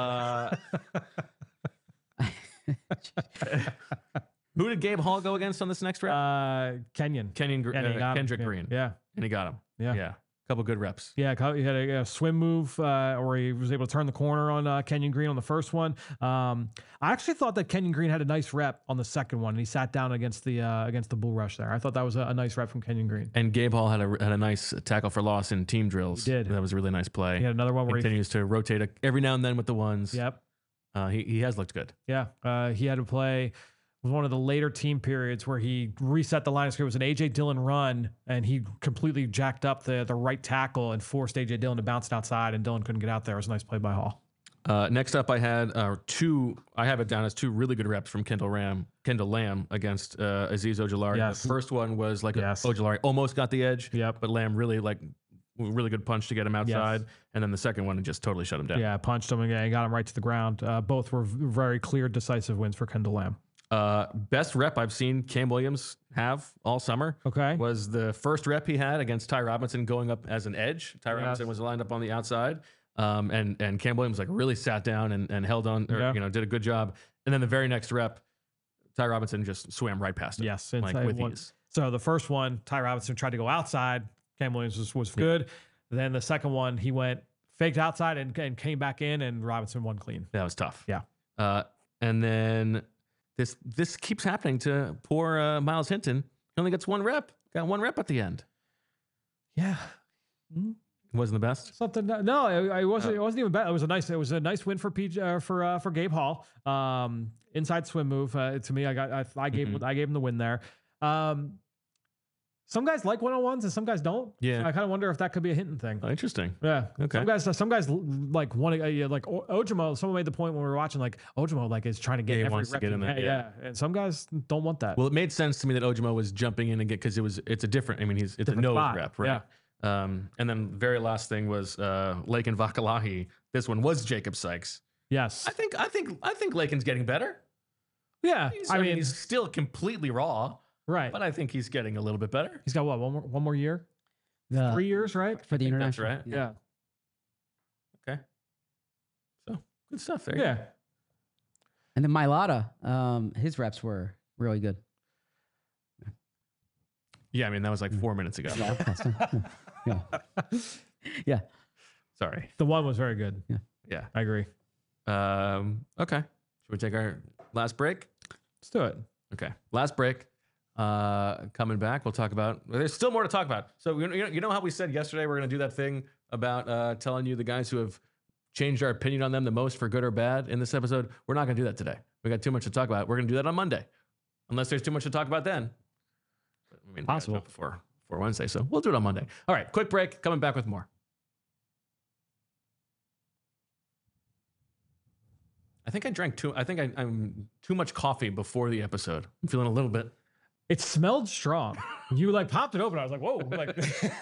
Who did Gabe Hall go against on this next rep? Kendrick Kendrick Green. Yeah. And he got him. Yeah. Yeah. Couple good reps. Yeah, he had a swim move where he was able to turn the corner on Kenyon Green on the first one. I actually thought that Kenyon Green had a nice rep on the second one, and he sat down against the bull rush there. I thought that was a nice rep from Kenyon Green. And Gabe Hall had a nice tackle for loss in team drills. He did. That was a really nice play. He had another one where he continues to rotate every now and then with the ones. Yep. He has looked good. Yeah. He had to play. It was one of the later team periods where he reset the line of scrimmage. It was an A.J. Dillon run, and he completely jacked up the right tackle and forced A.J. Dillon to bounce it outside, and Dillon couldn't get out there. It was a nice play by Hall. Next up, I had I have it down as two really good reps from Kendall Lamb against Aziz Ojulari. Yes. The first one was Ojulari almost got the edge, but Lamb really good punch to get him outside. Yes. And then the second one just totally shut him down. Yeah, punched him and got him right to the ground. Both were very clear, decisive wins for Kendall Lamb. Best rep I've seen Cam Williams have all summer was the first rep he had against Ty Robinson going up as an edge. Ty Robinson was lined up on the outside. And Cam Williams like really sat down and held on, did a good job. And then the very next rep, Ty Robinson just swam right past him. Yes. With ease. So the first one, Ty Robinson tried to go outside. Cam Williams was good. Then the second one, he went faked outside and came back in, and Robinson won clean. That was tough. Yeah. And then this keeps happening to poor Miles Hinton. He only gets one rep. Got one rep at the end. Yeah. It wasn't the best. Something. No, it wasn't. It wasn't even bad. It was a nice win for for Gabe Hall. Inside swim move. To me, I gave him the win there. Some guys like one-on-ones and some guys don't. Yeah. So I kind of wonder if that could be a Hinton thing. Oh, interesting. Yeah. Okay. Some guys like want to like Ojimo. Someone made the point when we were watching like Ojimo like is trying to get every wants rep to get in there. Yeah. And some guys don't want that. Well, it made sense to me that Ojimo was jumping in and because it's a different. I mean, it's a nose spot. rep, right? Yeah. And then the very last thing was Lakin Vakalahi. This one was Jacob Sykes. Yes. I think Lakin's getting better. Yeah. I mean, he's still completely raw. Right. But I think he's getting a little bit better. He's got what, one more year? 3 years, right? For the international. That's right. Yeah. Okay. So good stuff there. Yeah. And then Mailata, his reps were really good. Yeah, I mean, that was like 4 minutes ago. Yeah. Sorry. The one was very good. Yeah. I agree. Okay. Should we take our last break? Let's do it. Okay. Last break. Coming back, we'll talk about. There's still more to talk about. So you know how we said yesterday we're going to do that thing about telling you the guys who have changed our opinion on them the most for good or bad in this episode. We're not going to do that today. We got too much to talk about. We're going to do that on Monday, unless there's too much to talk about then. I mean, possible before Wednesday, so we'll do it on Monday. All right, quick break. Coming back with more. I think I drank too. I think I'm too much coffee before the episode. I'm feeling a little bit. It smelled strong. You like popped it open. I was like, whoa. Like,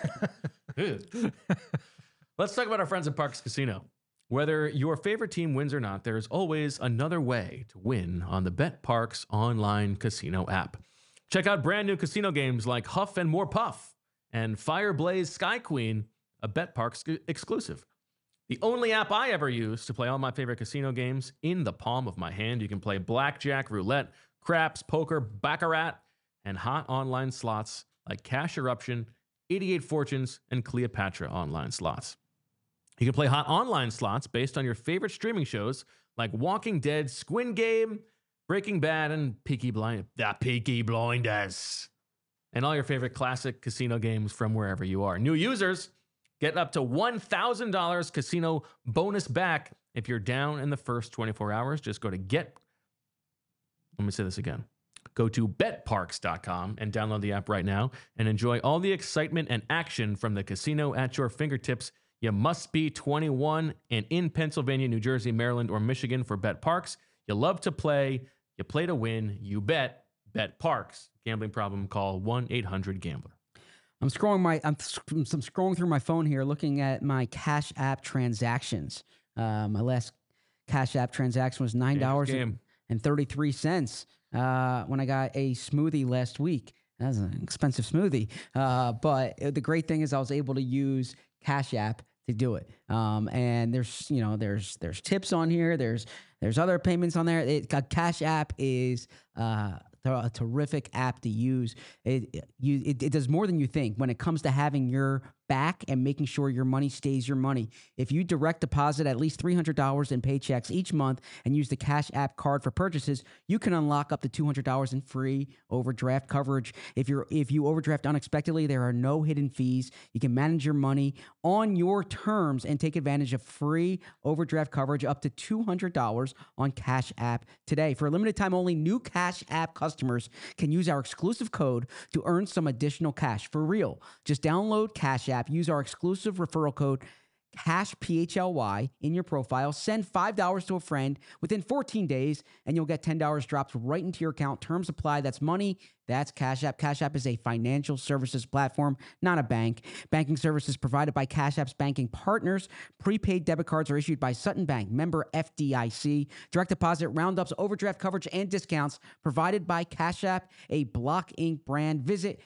let's talk about our friends at Parx Casino. Whether your favorite team wins or not, there's always another way to win on the BetParx online casino app. Check out brand new casino games like Huff and More Puff and Fireblaze Sky Queen, a BetParx exclusive. The only app I ever use to play all my favorite casino games in the palm of my hand. You can play blackjack, roulette, craps, poker, baccarat, and hot online slots like Cash Eruption, 88 Fortunes, and Cleopatra online slots. You can play hot online slots based on your favorite streaming shows like Walking Dead, Squid Game, Breaking Bad, and Peaky Blinders. And all your favorite classic casino games from wherever you are. New users get up to $1,000 casino bonus back if you're down in the first 24 hours. Just go to Let me say this again. Go to betparx.com and download the app right now and enjoy all the excitement and action from the casino at your fingertips. You must be 21 and in Pennsylvania, New Jersey, Maryland, or Michigan for betParx. You love to play. You play to win. You bet. betParx. Gambling problem? Call 1-800-GAMBLER. I'm scrolling through my phone here, looking at my Cash App transactions. My last Cash App transaction was $9.33 when I got a smoothie last week. That was an expensive smoothie, but the great thing is I was able to use Cash App to do it. And there's tips on here. There's other payments on there. Cash App is a terrific app to use. It does more than you think when it comes to having your back and making sure your money stays your money. If you direct deposit at least $300 in paychecks each month and use the Cash App card for purchases, you can unlock up to $200 in free overdraft coverage. If you overdraft unexpectedly, there are no hidden fees. You can manage your money on your terms and take advantage of free overdraft coverage up to $200 on Cash App today. For a limited time only, new Cash App customers can use our exclusive code to earn some additional cash for real. Just download Cash App, use our exclusive referral code CASH-PHLY in your profile, send $5 to a friend within 14 days, and you'll get $10 dropped right into your account. Terms apply. That's money. That's Cash App. Cash App is a financial services platform, not a bank. Banking services provided by Cash App's banking partners. Prepaid debit cards are issued by Sutton Bank, member FDIC. Direct deposit, roundups, overdraft coverage, and discounts provided by Cash App, a Block Inc. brand. Visit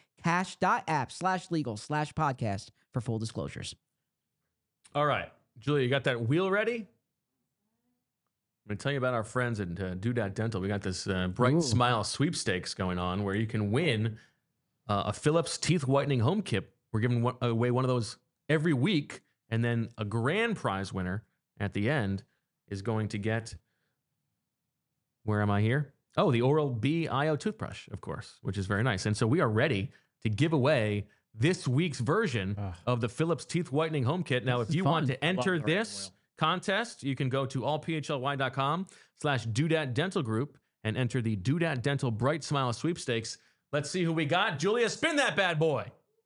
cash.app/legal/podcast for full disclosures. All right, Julia, you got that wheel ready? I'm going to tell you about our friends at Doodad Dental. We got this Bright Smile sweepstakes going on where you can win a Philips teeth whitening home kit. We're giving away one of those every week, and then a grand prize winner at the end is going to get, where am I here? Oh, the Oral-B IO toothbrush, of course, which is very nice. And so we are ready to give away this week's version of the Philips teeth whitening home kit. Now, if you want to enter this contest, you can go to allphly.com/Doodad Dental Group and enter the Doodad Dental Bright Smile sweepstakes. Let's see who we got. Julia, spin that bad boy.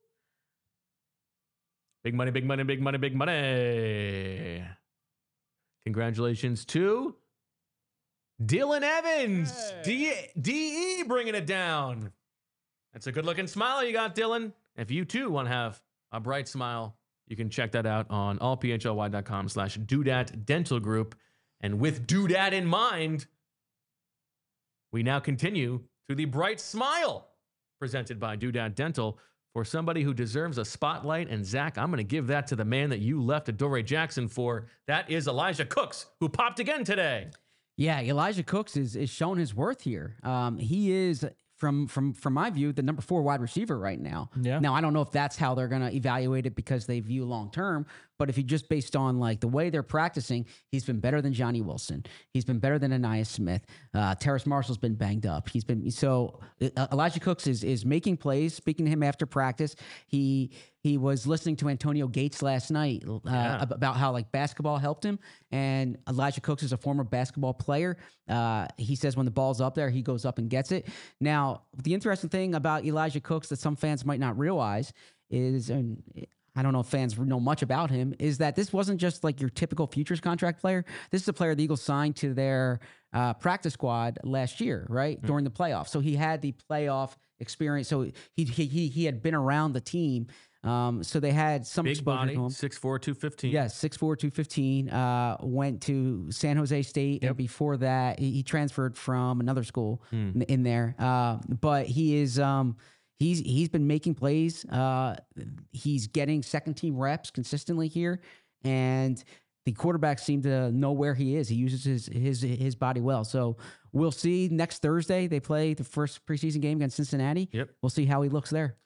Big money, big money, big money, big money. Congratulations to Dylan Evans. Hey. DE bringing it down. That's a good-looking smile you got, Dylan. If you, too, want to have a bright smile, you can check that out on allphly.com/Doodad Dental Group. And with Doodad in mind, we now continue to the Bright Smile presented by Doodad Dental for somebody who deserves a spotlight. And, Zach, I'm going to give that to the man that you left Adoree Jackson for. That is Elijah Cooks, who popped again today. Yeah, Elijah Cooks is showing his worth here. He is... From my view, the number 4 wide receiver right now. Yeah. Now, I don't know if that's how they're going to evaluate it because they view long term, but if you just based on like the way they're practicing, he's been better than Johnny Wilson. He's been better than Ainias Smith. Terrace Marshall's been banged up. Elijah Cooks is making plays. Speaking to him after practice, he was listening to Antonio Gates last night about how like basketball helped him. And Elijah Cooks is a former basketball player. He says when the ball's up there, he goes up and gets it. Now, the interesting thing about Elijah Cooks that some fans might not realize is, and I don't know if fans know much about him, is that this wasn't just like your typical futures contract player. This is a player the Eagles signed to their practice squad last year, right? During the playoffs. So he had the playoff experience. So he had been around the team. So they had some big exposure body, to him. 6'4", 215. Yes, 6'4", 215. Went to San Jose State, and before that, he transferred from another school in there. But he is he's been making plays. He's getting second team reps consistently here, and the quarterbacks seem to know where he is. He uses his body well. So we'll see next Thursday. They play the first preseason game against Cincinnati. Yep. We'll see how he looks there.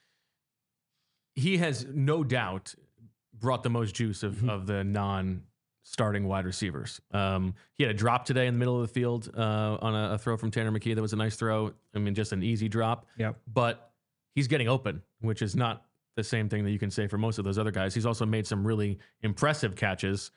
He has no doubt brought the most juice of the non-starting wide receivers. He had a drop today in the middle of the field on a throw from Tanner McKee. That was a nice throw. I mean, just an easy drop. Yep. But he's getting open, which is not the same thing that you can say for most of those other guys. He's also made some really impressive catches.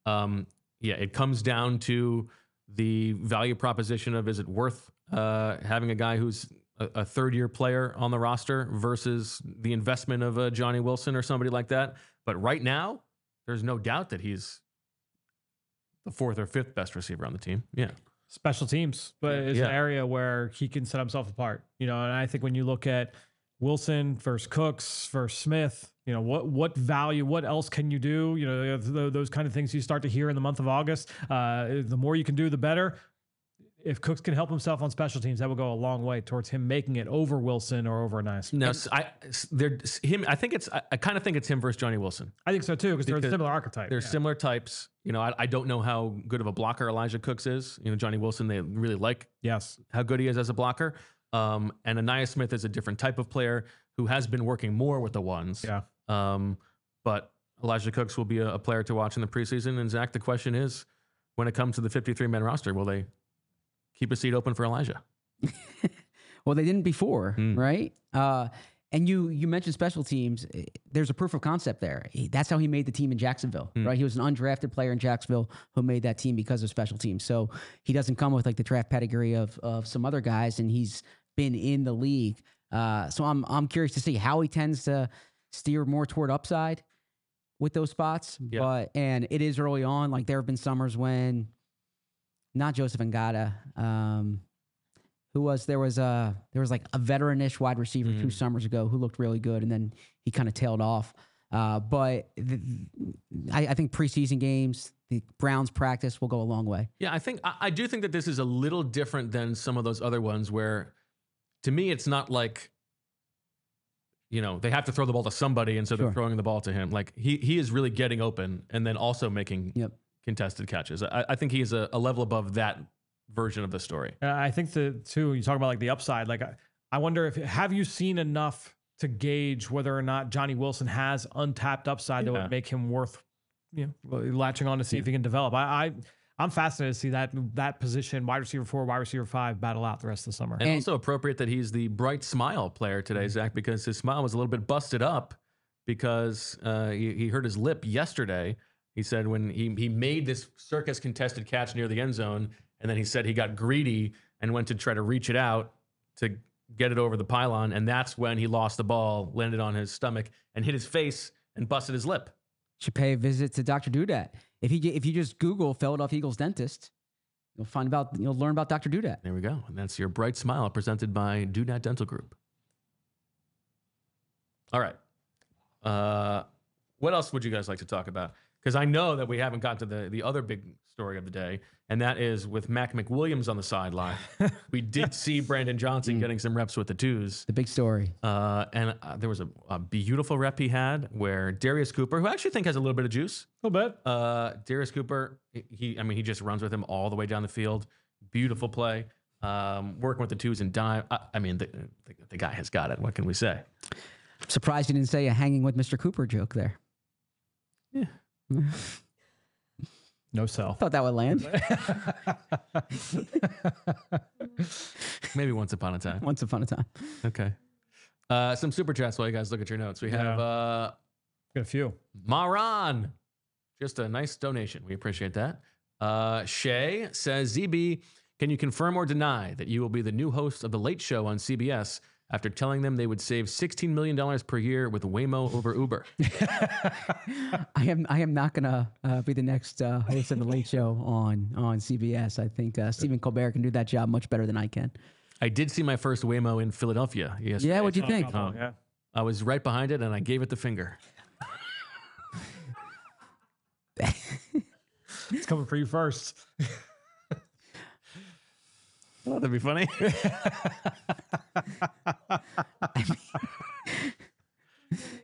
It comes down to the value proposition of, is it worth having a guy who's a third-year player on the roster versus the investment of a Johnny Wilson or somebody like that. But right now, there's no doubt that he's the fourth or fifth best receiver on the team. Yeah. Special teams, but it's an area where he can set himself apart. And I think when you look at Wilson versus Cooks versus Smith, what value, what else can you do? Those kind of things you start to hear in the month of August. The more you can do, the better. If Cooks can help himself on special teams, that will go a long way towards him making it over Wilson or over Nice. No, I kind of think it's him versus Johnny Wilson. I think so too, because they're a similar archetype. They're similar types. I don't know how good of a blocker Elijah Cooks is. Johnny Wilson, they really like how good he is as a blocker. And Ainias Smith is a different type of player who has been working more with the ones. Yeah. But Elijah Cooks will be a player to watch in the preseason. And Zach, the question is, when it comes to the 53-man roster, will they keep a seat open for Elijah? Well, they didn't before, right? And you mentioned special teams. There's a proof of concept there. That's how he made the team in Jacksonville, right? He was an undrafted player in Jacksonville who made that team because of special teams. So he doesn't come with like the draft pedigree of some other guys, and he's been in the league. So I'm curious to see how he tends to steer more toward upside with those spots. Yeah. And it is early on. Like there have been summers when not Joseph Ngata, there was like a veteran-ish wide receiver 2 summers ago who looked really good, and then he kind of tailed off. But I think preseason games, the Browns practice will go a long way. Yeah, I do think that this is a little different than some of those other ones where, to me, it's not like, they have to throw the ball to somebody, and so they're throwing the ball to him. Like he is really getting open and then also making contested catches. I think he is a level above that version of the story. I think you talk about like the upside. Like I wonder have you seen enough to gauge whether or not Johnny Wilson has untapped upside that would make him worth latching on to see if he can develop. I'm fascinated to see that position, wide receiver 4, wide receiver 5, battle out the rest of the summer. And also appropriate that he's the bright smile player today, Zach, because his smile was a little bit busted up because he hurt his lip yesterday. He said when he made this circus contested catch near the end zone, and then he said he got greedy and went to try to reach it out to get it over the pylon, and that's when he lost the ball, landed on his stomach, and hit his face and busted his lip. Should pay a visit to Dr. Dudat. If you just Google Philadelphia Eagles dentist, you'll learn about Dr. Dudat. There we go. And that's your bright smile presented by Dudat Dental Group. All right. What else would you guys like to talk about? Because I know that we haven't gotten to the other big story of the day, and that is with Mac McWilliams on the sideline. We did see Brandon Johnson getting some reps with the twos. The big story. And there was a beautiful rep he had where Darius Cooper, who I actually think has a little bit of juice. A little bit. Darius Cooper, he just runs with him all the way down the field. Beautiful play. Working with the twos and dime. The guy has got it. What can we say? I'm surprised you didn't say a hanging with Mr. Cooper joke there. Yeah. No sell. Thought that would land. Maybe once upon a time. Once upon a time. Okay. Some super chats while you guys look at your notes. We have got a few. Maran. Just a nice donation. We appreciate that. Shay says, ZB, can you confirm or deny that you will be the new host of The Late Show on CBS after telling them they would save $16 million per year with Waymo over Uber? I am not going to be the next host of The Late Show on CBS. I think Stephen Colbert can do that job much better than I can. I did see my first Waymo in Philadelphia yesterday. Yeah, what'd you think? Yeah. I was right behind it, and I gave it the finger. It's coming for you first. Oh, that'd be funny.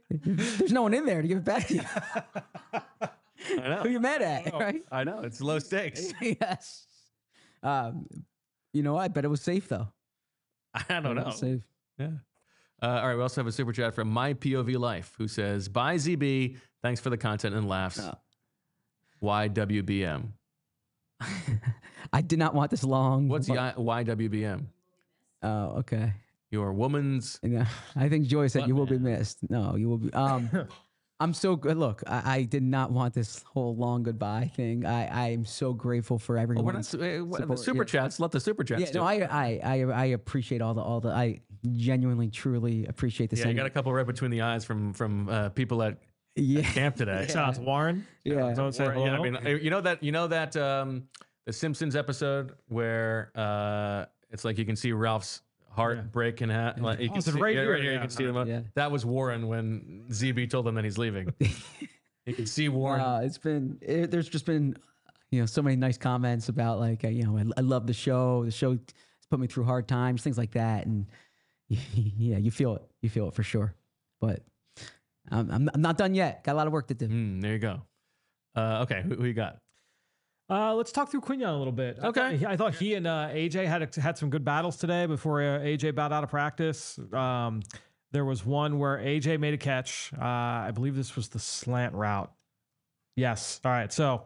There's no one in there to give it back to you. I know. Who you mad at, right? I know. It's low stakes. Yes. You know, I bet it was safe though. I don't know. Safe. Yeah. All right. We also have a super chat from My POV Life who says, "Bye ZB. Thanks for the content and laughs. YWBM." I did not want this long. What's the YWBM? Oh, okay. Your woman's. Yeah, I think Joy said you will be man. missed. No, you will be. I'm so good. Look, I did not want this whole long goodbye thing. I am so grateful for everyone. We're not, the super chats. Let the super chats. Yeah, no, I appreciate all the. I genuinely, truly appreciate this. Yeah, you got a couple right between the eyes from people at camp today. Shout out to Warren. Yeah. Don't say hello. Yeah, I mean, you know that the Simpsons episode where it's like you can see Ralph's heart break in half. Like, you can see, right here. You can see them. Yeah. That was Warren when ZB told them that he's leaving. You can see Warren. There's just been, so many nice comments about like, I love the show. The show has put me through hard times, things like that, and yeah, you feel it. You feel it for sure. But I'm not done yet. Got a lot of work to do. There you go. Okay, who you got? Let's talk through Quinyon a little bit. Okay. I thought he and AJ had some good battles today before AJ bowed out of practice. There was one where AJ made a catch. I believe this was the slant route. Yes. All right. So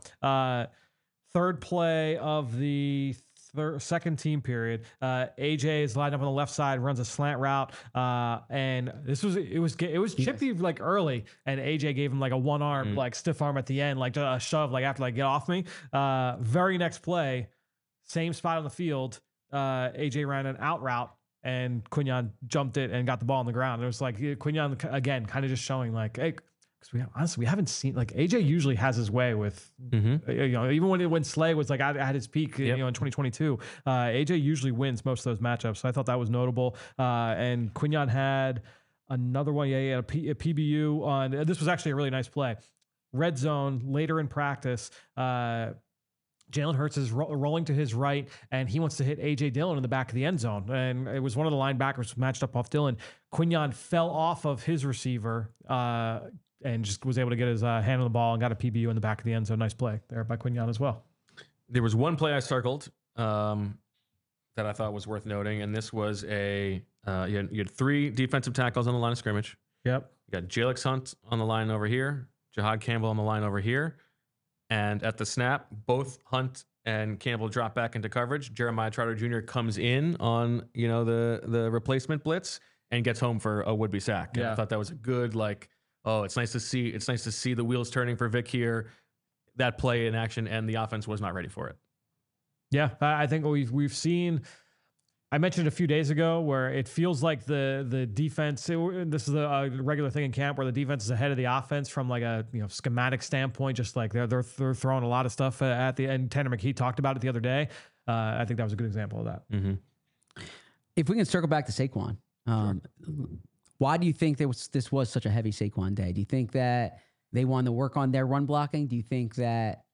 third play of the second team period. AJ is lined up on the left side, runs a slant route, and it was chippy like early, and AJ gave him like a one arm like stiff arm at the end, like a shove, like after like get off me. Very next play, same spot on the field. AJ ran an out route, and Quinyon jumped it and got the ball on the ground. It was like Quinyon again, kind of just showing like, hey. Because we haven't seen, like, AJ usually has his way with, even when Slay was like at his peak, in 2022, AJ usually wins most of those matchups. So I thought that was notable. And Quinyon had another one. Yeah, he had a PBU on. This was actually a really nice play. Red zone later in practice. Jalen Hurts is rolling to his right, and he wants to hit A.J. Dillon in the back of the end zone. And it was one of the linebackers matched up off Dillon. Quinyon fell off of his receiver and just was able to get his hand on the ball and got a PBU in the back of the end zone. Nice play there by Quinyon as well. There was one play I circled that I thought was worth noting, and this was you had three defensive tackles on the line of scrimmage. Yep. You got Jalix Hunt on the line over here, Jahad Campbell on the line over here. And at the snap, both Hunt and Campbell drop back into coverage. Jeremiah Trotter Jr. comes in on the replacement blitz and gets home for a would-be sack. And I thought that was a good it's nice to see the wheels turning for Vic here. That play in action, and the offense was not ready for it. Yeah, I think we've seen. I mentioned a few days ago where it feels like the defense. This is a regular thing in camp where the defense is ahead of the offense from like a schematic standpoint. Just like they're throwing a lot of stuff at the end. Tanner McKee talked about it the other day. I think that was a good example of that. Mm-hmm. If we can circle back to Saquon, sure. Why do you think this was such a heavy Saquon day? Do you think that they wanted to work on their run blocking? Do you think that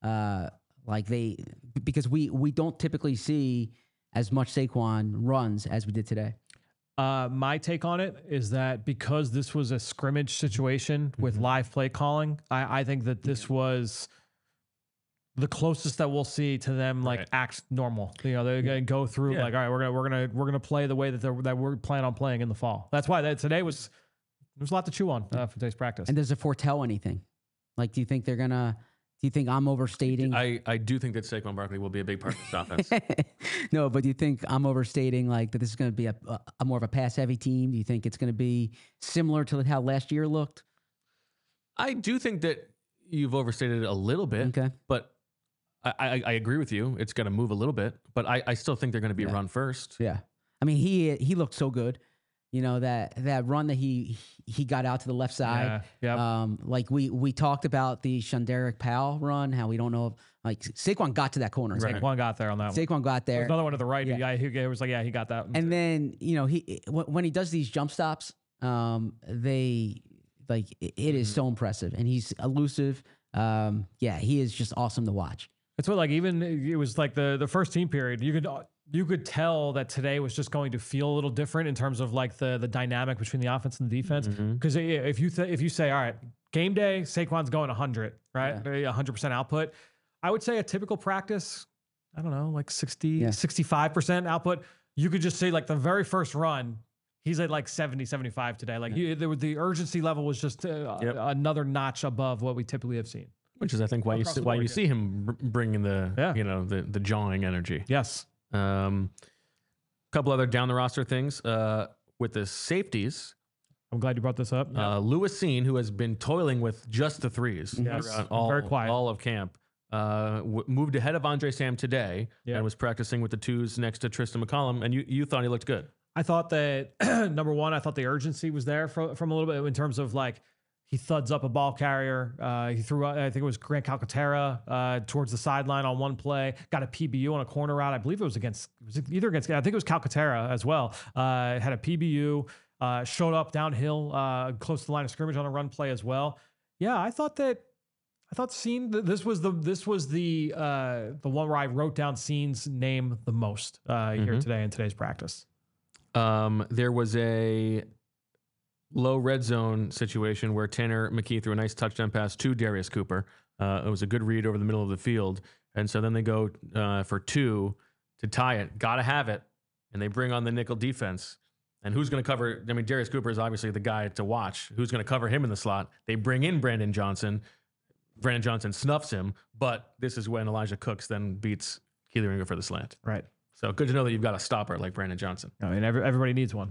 because we don't typically see as much Saquon runs as we did today? My take on it is that because this was a scrimmage situation with live play calling, I think that this was the closest that we'll see to them act normal. They're gonna go through all right, we're gonna play the way that we're planning on playing in the fall. That's why today was there's a lot to chew on for today's practice. And does it foretell anything? Like, do you think they're gonna? Do you think I'm overstating? I do think that Saquon Barkley will be a big part of this offense. No, but do you think I'm overstating that this is going to be a more of a pass-heavy team? Do you think it's going to be similar to how last year looked? I do think that you've overstated it a little bit. Okay. But I agree with you. It's going to move a little bit. But I still think they're going to be run first. Yeah. I mean, he looked so good. That run that he got out to the left side. Yeah. Like we talked about the Shunderic Powell run, how we don't know if Saquon got to that corner. Right. Saquon got there on that one. Saquon got there. There's another one to the right. Yeah. He was like, he got that. And then, when he does these jump stops, it is so impressive, and he's elusive. He is just awesome to watch. It's what even it was like the first team period. You could you could tell that today was just going to feel a little different in terms of like the dynamic between the offense and the defense. Because if you say, all right, game day, Saquon's going 100, right? 100% output. I would say a typical practice, I don't know, like 65% output. You could just say like the very first run, he's at like 70, 75 today. Like the urgency level was just another notch above what we typically have seen. Which is, I think, why you see him bringing the the jawing energy. Yes. Couple other down the roster things with the safeties. I'm glad you brought this up. Lewis Cine, who has been toiling with just the threes throughout all of camp, moved ahead of Andre Sam today and was practicing with the twos next to Tristan McCollum. And you thought he looked good. I thought that number one, I thought the urgency was there from a little bit in terms of like he thuds up a ball carrier. He threw, I think it was Grant Calcaterra towards the sideline on one play, got a PBU on a corner route. I believe it was either against, I think it was Calcaterra as well. Had a PBU, showed up downhill, close to the line of scrimmage on a run play as well. Yeah, I thought Cine, this was the one where I wrote down Cine's name the most here today in today's practice. There was a low red zone situation where Tanner McKee threw a nice touchdown pass to Darius Cooper. It was a good read over the middle of the field. And so then they go for 2 to tie it. Got to have it. And they bring on the nickel defense. And who's going to cover? I mean, Darius Cooper is obviously the guy to watch. Who's going to cover him in the slot? They bring in Brandon Johnson. Brandon Johnson snuffs him. But this is when Elijah Cooks then beats Keely Ringer for the slant. Right. So good to know that you've got a stopper like Brandon Johnson. I mean, everybody needs one.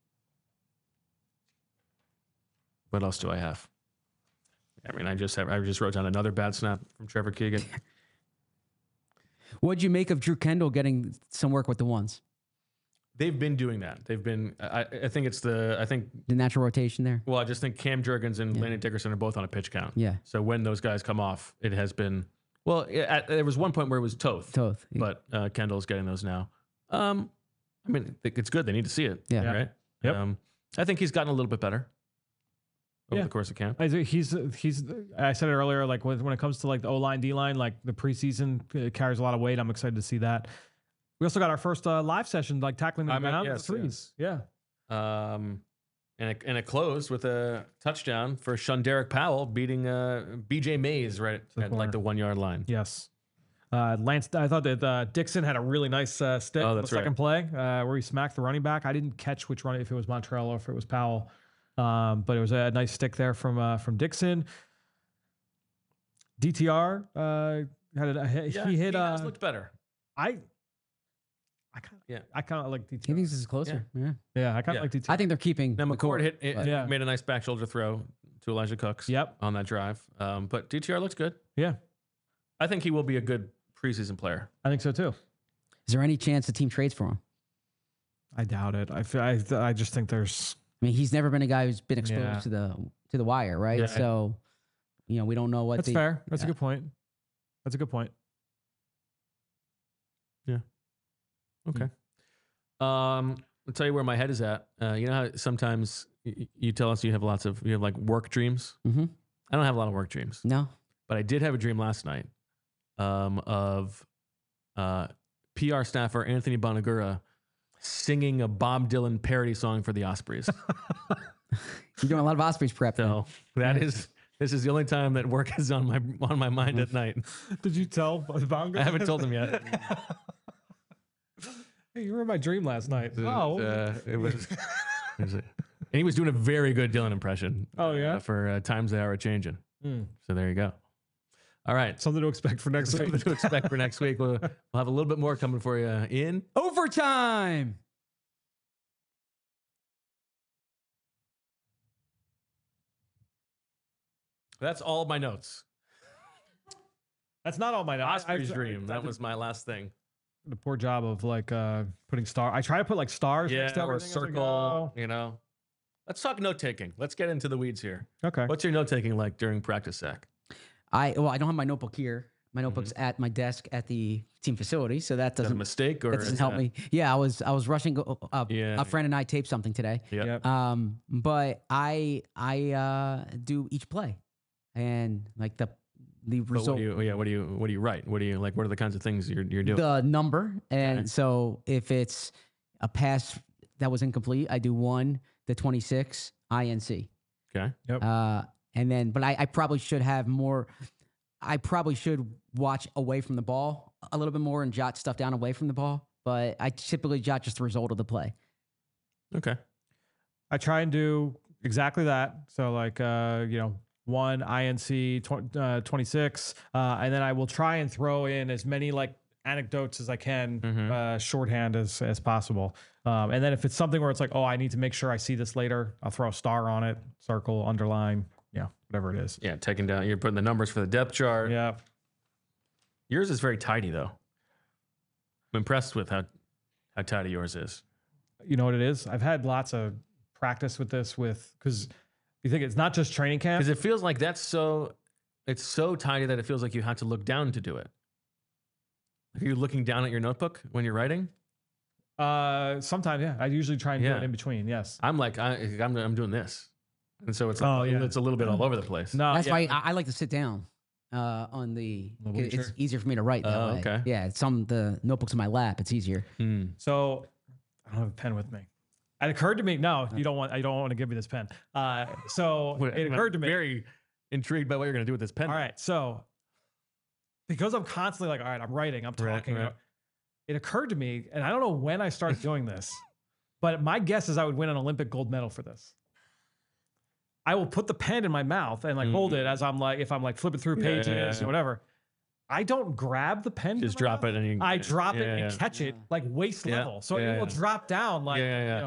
What else do I have? I mean, I just wrote down another bad snap from Trevor Keegan. What'd you make of Drew Kendall getting some work with the ones? They've been doing that. They've been. I think it's the natural rotation there. Well, I just think Cam Jurgens and Landon Dickerson are both on a pitch count. Yeah. So when those guys come off, it has been. Well, there was one point where it was Toth. But Kendall's getting those now. I mean, it's good. They need to see it. Yeah. Right. Yep. I think he's gotten a little bit better over the course of camp. He's. I said it earlier. Like when it comes to like the O-line, D-line, like the preseason carries a lot of weight. I'm excited to see that. We also got our first live session, like tackling the ground the threes. Yeah. And it closed with a touchdown for Shunderick Powell beating BJ Mays right at like the 1 yard line. Yes. Lance, I thought that Dixon had a really nice stick on the second play where he smacked the running back. I didn't catch which running, if it was Montreal or if it was Powell, but it was a nice stick there from Dixon. DTR he hit. He looked better. I kind of like DTR. He thinks this is closer. Yeah, I kind of like DTR. I think they're keeping. Now McCord made a nice back shoulder throw to Elijah Cooks. On that drive. But DTR looks good. Yeah, I think he will be a good preseason player. I think so too. Is there any chance the team trades for him? I doubt it. I just think there's. I mean, he's never been a guy who's been exposed to the wire, right? Yeah. So, we don't know what. That's fair. That's a good point. That's a good point. Yeah. Okay. I'll tell you where my head is at. You know how sometimes you tell us you have like work dreams? Mm-hmm. I don't have a lot of work dreams. No. But I did have a dream last night of PR staffer Anthony Bonagura singing a Bob Dylan parody song for the Ospreys. You're doing a lot of Ospreys prep. So this is the only time that work is on my mind at night. Did you tell Bonagura? I haven't told him yet. Hey, you were in my dream last night. It was and he was doing a very good Dylan impression. Oh yeah, for times they are changing. So there you go. All right, something to expect for next week. Something to expect for next week. We'll have a little bit more coming for you in overtime. That's all my notes. That's not all my notes. Osprey's dream. That was my last thing. The poor job of like putting star. I try to put like stars. Or a circle. Let's talk note taking. Let's get into the weeds here. Okay. What's your note taking like during practice, Zach? I don't have my notebook here. My notebook's at my desk at the team facility, so that doesn't. Is that a mistake or that doesn't help me. Yeah, I was rushing. A friend and I taped something today. Yep. But I do each play, and like result. What do you write? What are the kinds of things you're doing? The number. And so if it's a pass that was incomplete, I do 1 to 26 INC. Okay. Yep. And then, but I probably should have more. I probably should watch away from the ball a little bit more and jot stuff down away from the ball. But I typically jot just the result of the play. Okay. I try and do exactly that. So like, 1 INC 26, and then I will try and throw in as many like anecdotes as I can, shorthand as possible. And then if it's something where it's like, oh, I need to make sure I see this later, I'll throw a star on it, circle, underline, whatever it is. Yeah, taking down. You're putting the numbers for the depth chart. Yeah. Yours is very tidy though. I'm impressed with how tidy yours is. You know what it is? I've had lots of practice with this because you think it's not just training camp. Because it feels like it's so tidy that it feels like you have to look down to do it. Are you looking down at your notebook when you're writing? Sometimes, yeah. I usually try and do it in between. Yes. I'm like, I'm doing this. And so it's like, it's a little bit all over the place. No, That's why I like to sit down on the. It's easier for me to write that way. Okay. Yeah, the notebooks in my lap. It's easier. So I don't have a pen with me. It occurred to me. No, I don't want to give you this pen. So it occurred to me. Very intrigued by what you're going to do with this pen. All right. So because I'm constantly like, all right, I'm writing, I'm talking. Right. It occurred to me, and I don't know when I started doing this, but my guess is I would win an Olympic gold medal for this. I will put the pen in my mouth and like hold it as if I'm like flipping through pages or whatever. I don't grab the pen. Just drop it and I drop it and catch it like waist level. So it will drop down like,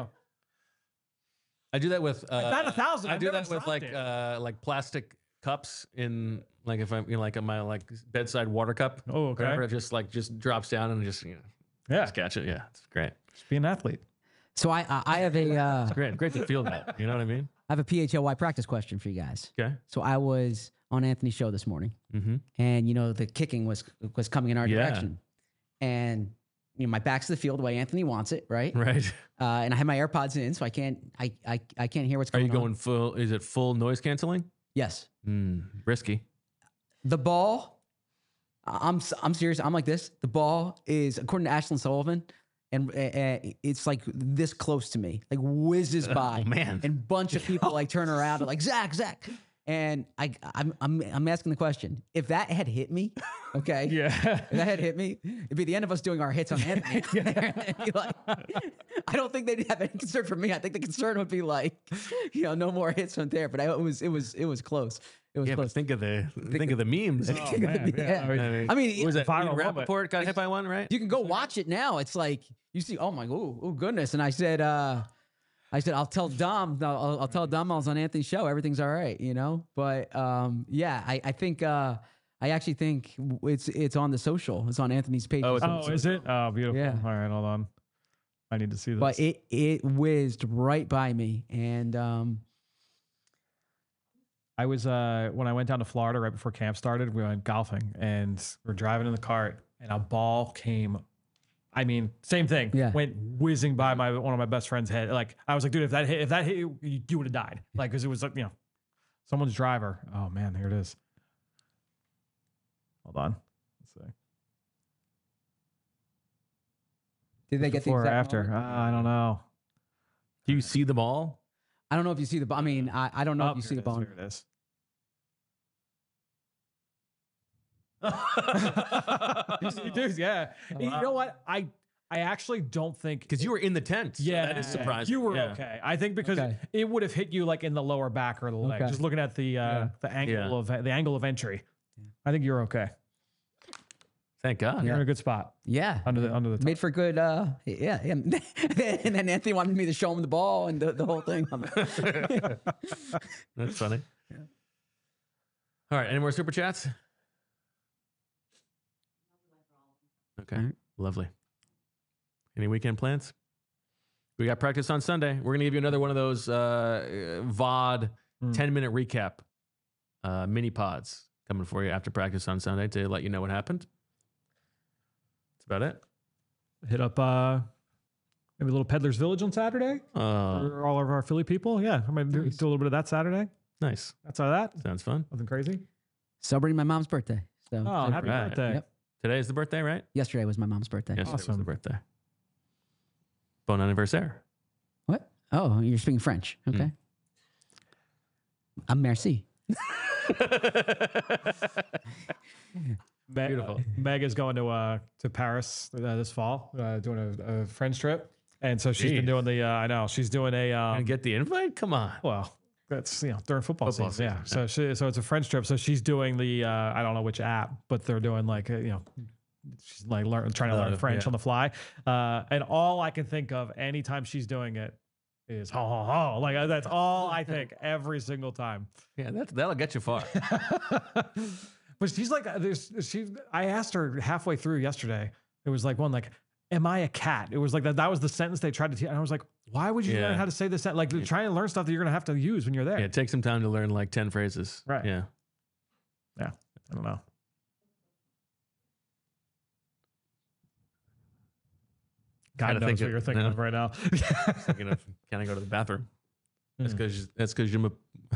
I do that with I've had 1,000. I do that with like plastic cups in like if I'm like in my like bedside water cup. Oh, okay. Whatever, it just drops down and just just catch it. Yeah, it's great. Just be an athlete. So I have a It's great to feel that. You know what I mean? I have a PHLY practice question for you guys. Okay. So I was on Anthony's show this morning, and the kicking was coming in our direction, and my back's to the field the way Anthony wants it, right? Right. And I have my AirPods in, so I can't hear what's Are going on. you going full? Is it full noise canceling? Yes. Risky. The ball. I'm serious. I'm like this. The ball is, according to Ashlyn Sullivan, and it's like this close to me, like whizzes by. Oh, man. And a bunch of people like turn around and like Zach. And I'm asking the question: if that had hit me, okay, if that had hit me, it'd be the end of us doing our hits on Anthony. I don't think they'd have any concern for me. I think the concern would be like, no more hits on there. But it was close. It was close. But think of the memes. I mean, was that viral Rappaport got hit by one, right? you can go watch it now. It's like you see, oh goodness. And I said, I'll tell Dom. I'll tell Dom I was on Anthony's show. Everything's all right, But I think I actually think it's on the social. It's on Anthony's page. Oh, is it? Oh, beautiful. Yeah. All right, hold on. I need to see this. But it whizzed right by me, and I was when I went down to Florida right before camp started. We went golfing, and we're driving in the cart, and a ball came. I mean, same thing. Yeah. Went whizzing by one of my best friend's head. Like I was like, dude, if that hit you, you would have died. Like because it was like someone's driver. Oh man, here it is. Hold on. Let's see. did they get the Before or exact after? moment? I don't know. Do you see the ball? I don't know if you see the ball. I mean, I don't know if you see the ball. Here it is. You do, yeah. Oh, You know what? I actually don't think Because you were in the tent. So Yeah, that is surprising. You were okay. I think because it would have hit you like in the lower back or the leg. Okay. Just looking at the angle of entry, I think you're okay. Thank God. You're in a good spot Yeah. under the top. Made for good, yeah. And then Anthony wanted me to show him the ball and the whole thing. That's funny. Yeah. All right. Any more super chats? Okay. Lovely. Any weekend plans? We got practice on Sunday. We're going to give you another one of those VOD 10-minute recap mini pods coming for you after practice on Sunday to let you know what happened. That's about it. Hit up maybe a little Peddler's Village on Saturday for all of our Philly people. Yeah, I'm going to do a little bit of that Saturday. Nice. That's all that. Sounds fun. Nothing crazy. Celebrating my mom's birthday. So happy birthday. Yep. Today is the birthday, right? Yesterday was my mom's birthday. Yesterday was Awesome. the birthday. Bon anniversaire. What? Oh, you're speaking French. Okay. Meg, Merci. Beautiful. Meg is going to Paris this fall, doing a friends trip, and so she's been doing the. I know she's doing a. Gonna get the invite? Come on. Well, that's during football season. season, Yeah. So it's a friends trip. So she's doing the. I don't know which app, but they're doing like she's like trying to learn French on the fly, and all I can think of anytime she's doing it is ha ha ha. Like that's all I think every single time. Yeah, that'll get you far. But she's like, I asked her halfway through yesterday. It was like am I a cat? It was like that was the sentence they tried to teach. And I was like, why would you learn how to say this? Like trying to learn stuff that you're going to have to use when you're there. Yeah, take some time to learn like 10 phrases. Right. Yeah. Yeah. I don't know. God knows what you're thinking of right now. Thinking of, can I go to the bathroom? That's because you're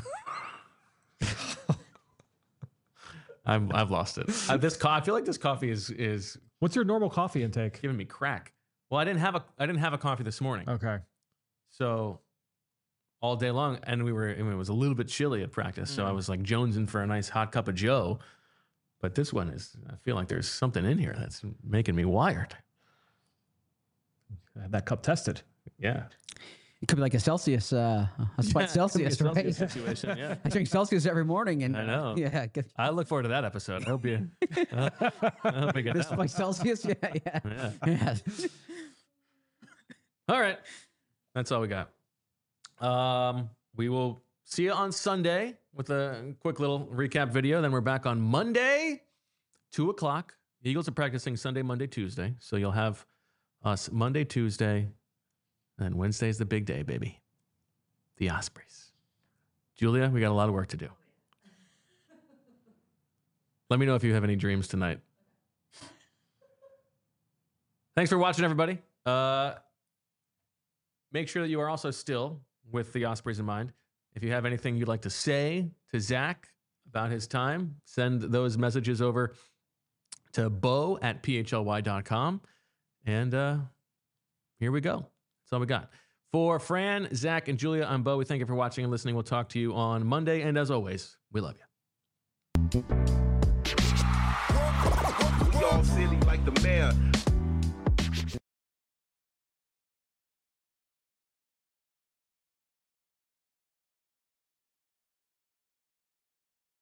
I've lost it. I feel like this coffee is What's your normal coffee intake? giving me crack. Well, I didn't have a coffee this morning. Okay. So all day long, and it was a little bit chilly at practice. So I was like jonesing for a nice hot cup of Joe. But this one I feel like there's something in here that's making me wired. I had that cup tested. Yeah. It could be like a Celsius, a slight Celsius, right? Celsius situation, yeah. I drink Celsius every morning, and I know. Yeah, I look forward to that episode. I hope you. I hope you get this that one. by Celsius. Yeah. Yeah. All right. That's all we got. We will see you on Sunday with a quick little recap video. Then we're back on Monday, 2:00. Eagles are practicing Sunday, Monday, Tuesday. So you'll have us Monday, Tuesday, and Wednesday's the big day, baby. The Ospreys. Julia, we got a lot of work to do. Let me know if you have any dreams tonight. Thanks for watching, everybody. Make sure that you are also still with the Ospreys in mind. If you have anything you'd like to say to Zach about his time, send those messages over to bo@phly.com. And here we go. That's all we got. For Fran, Zach, and Julia, I'm Bo. We thank you for watching and listening. We'll talk to you on Monday. And as always, we love you. We all silly like the mayor.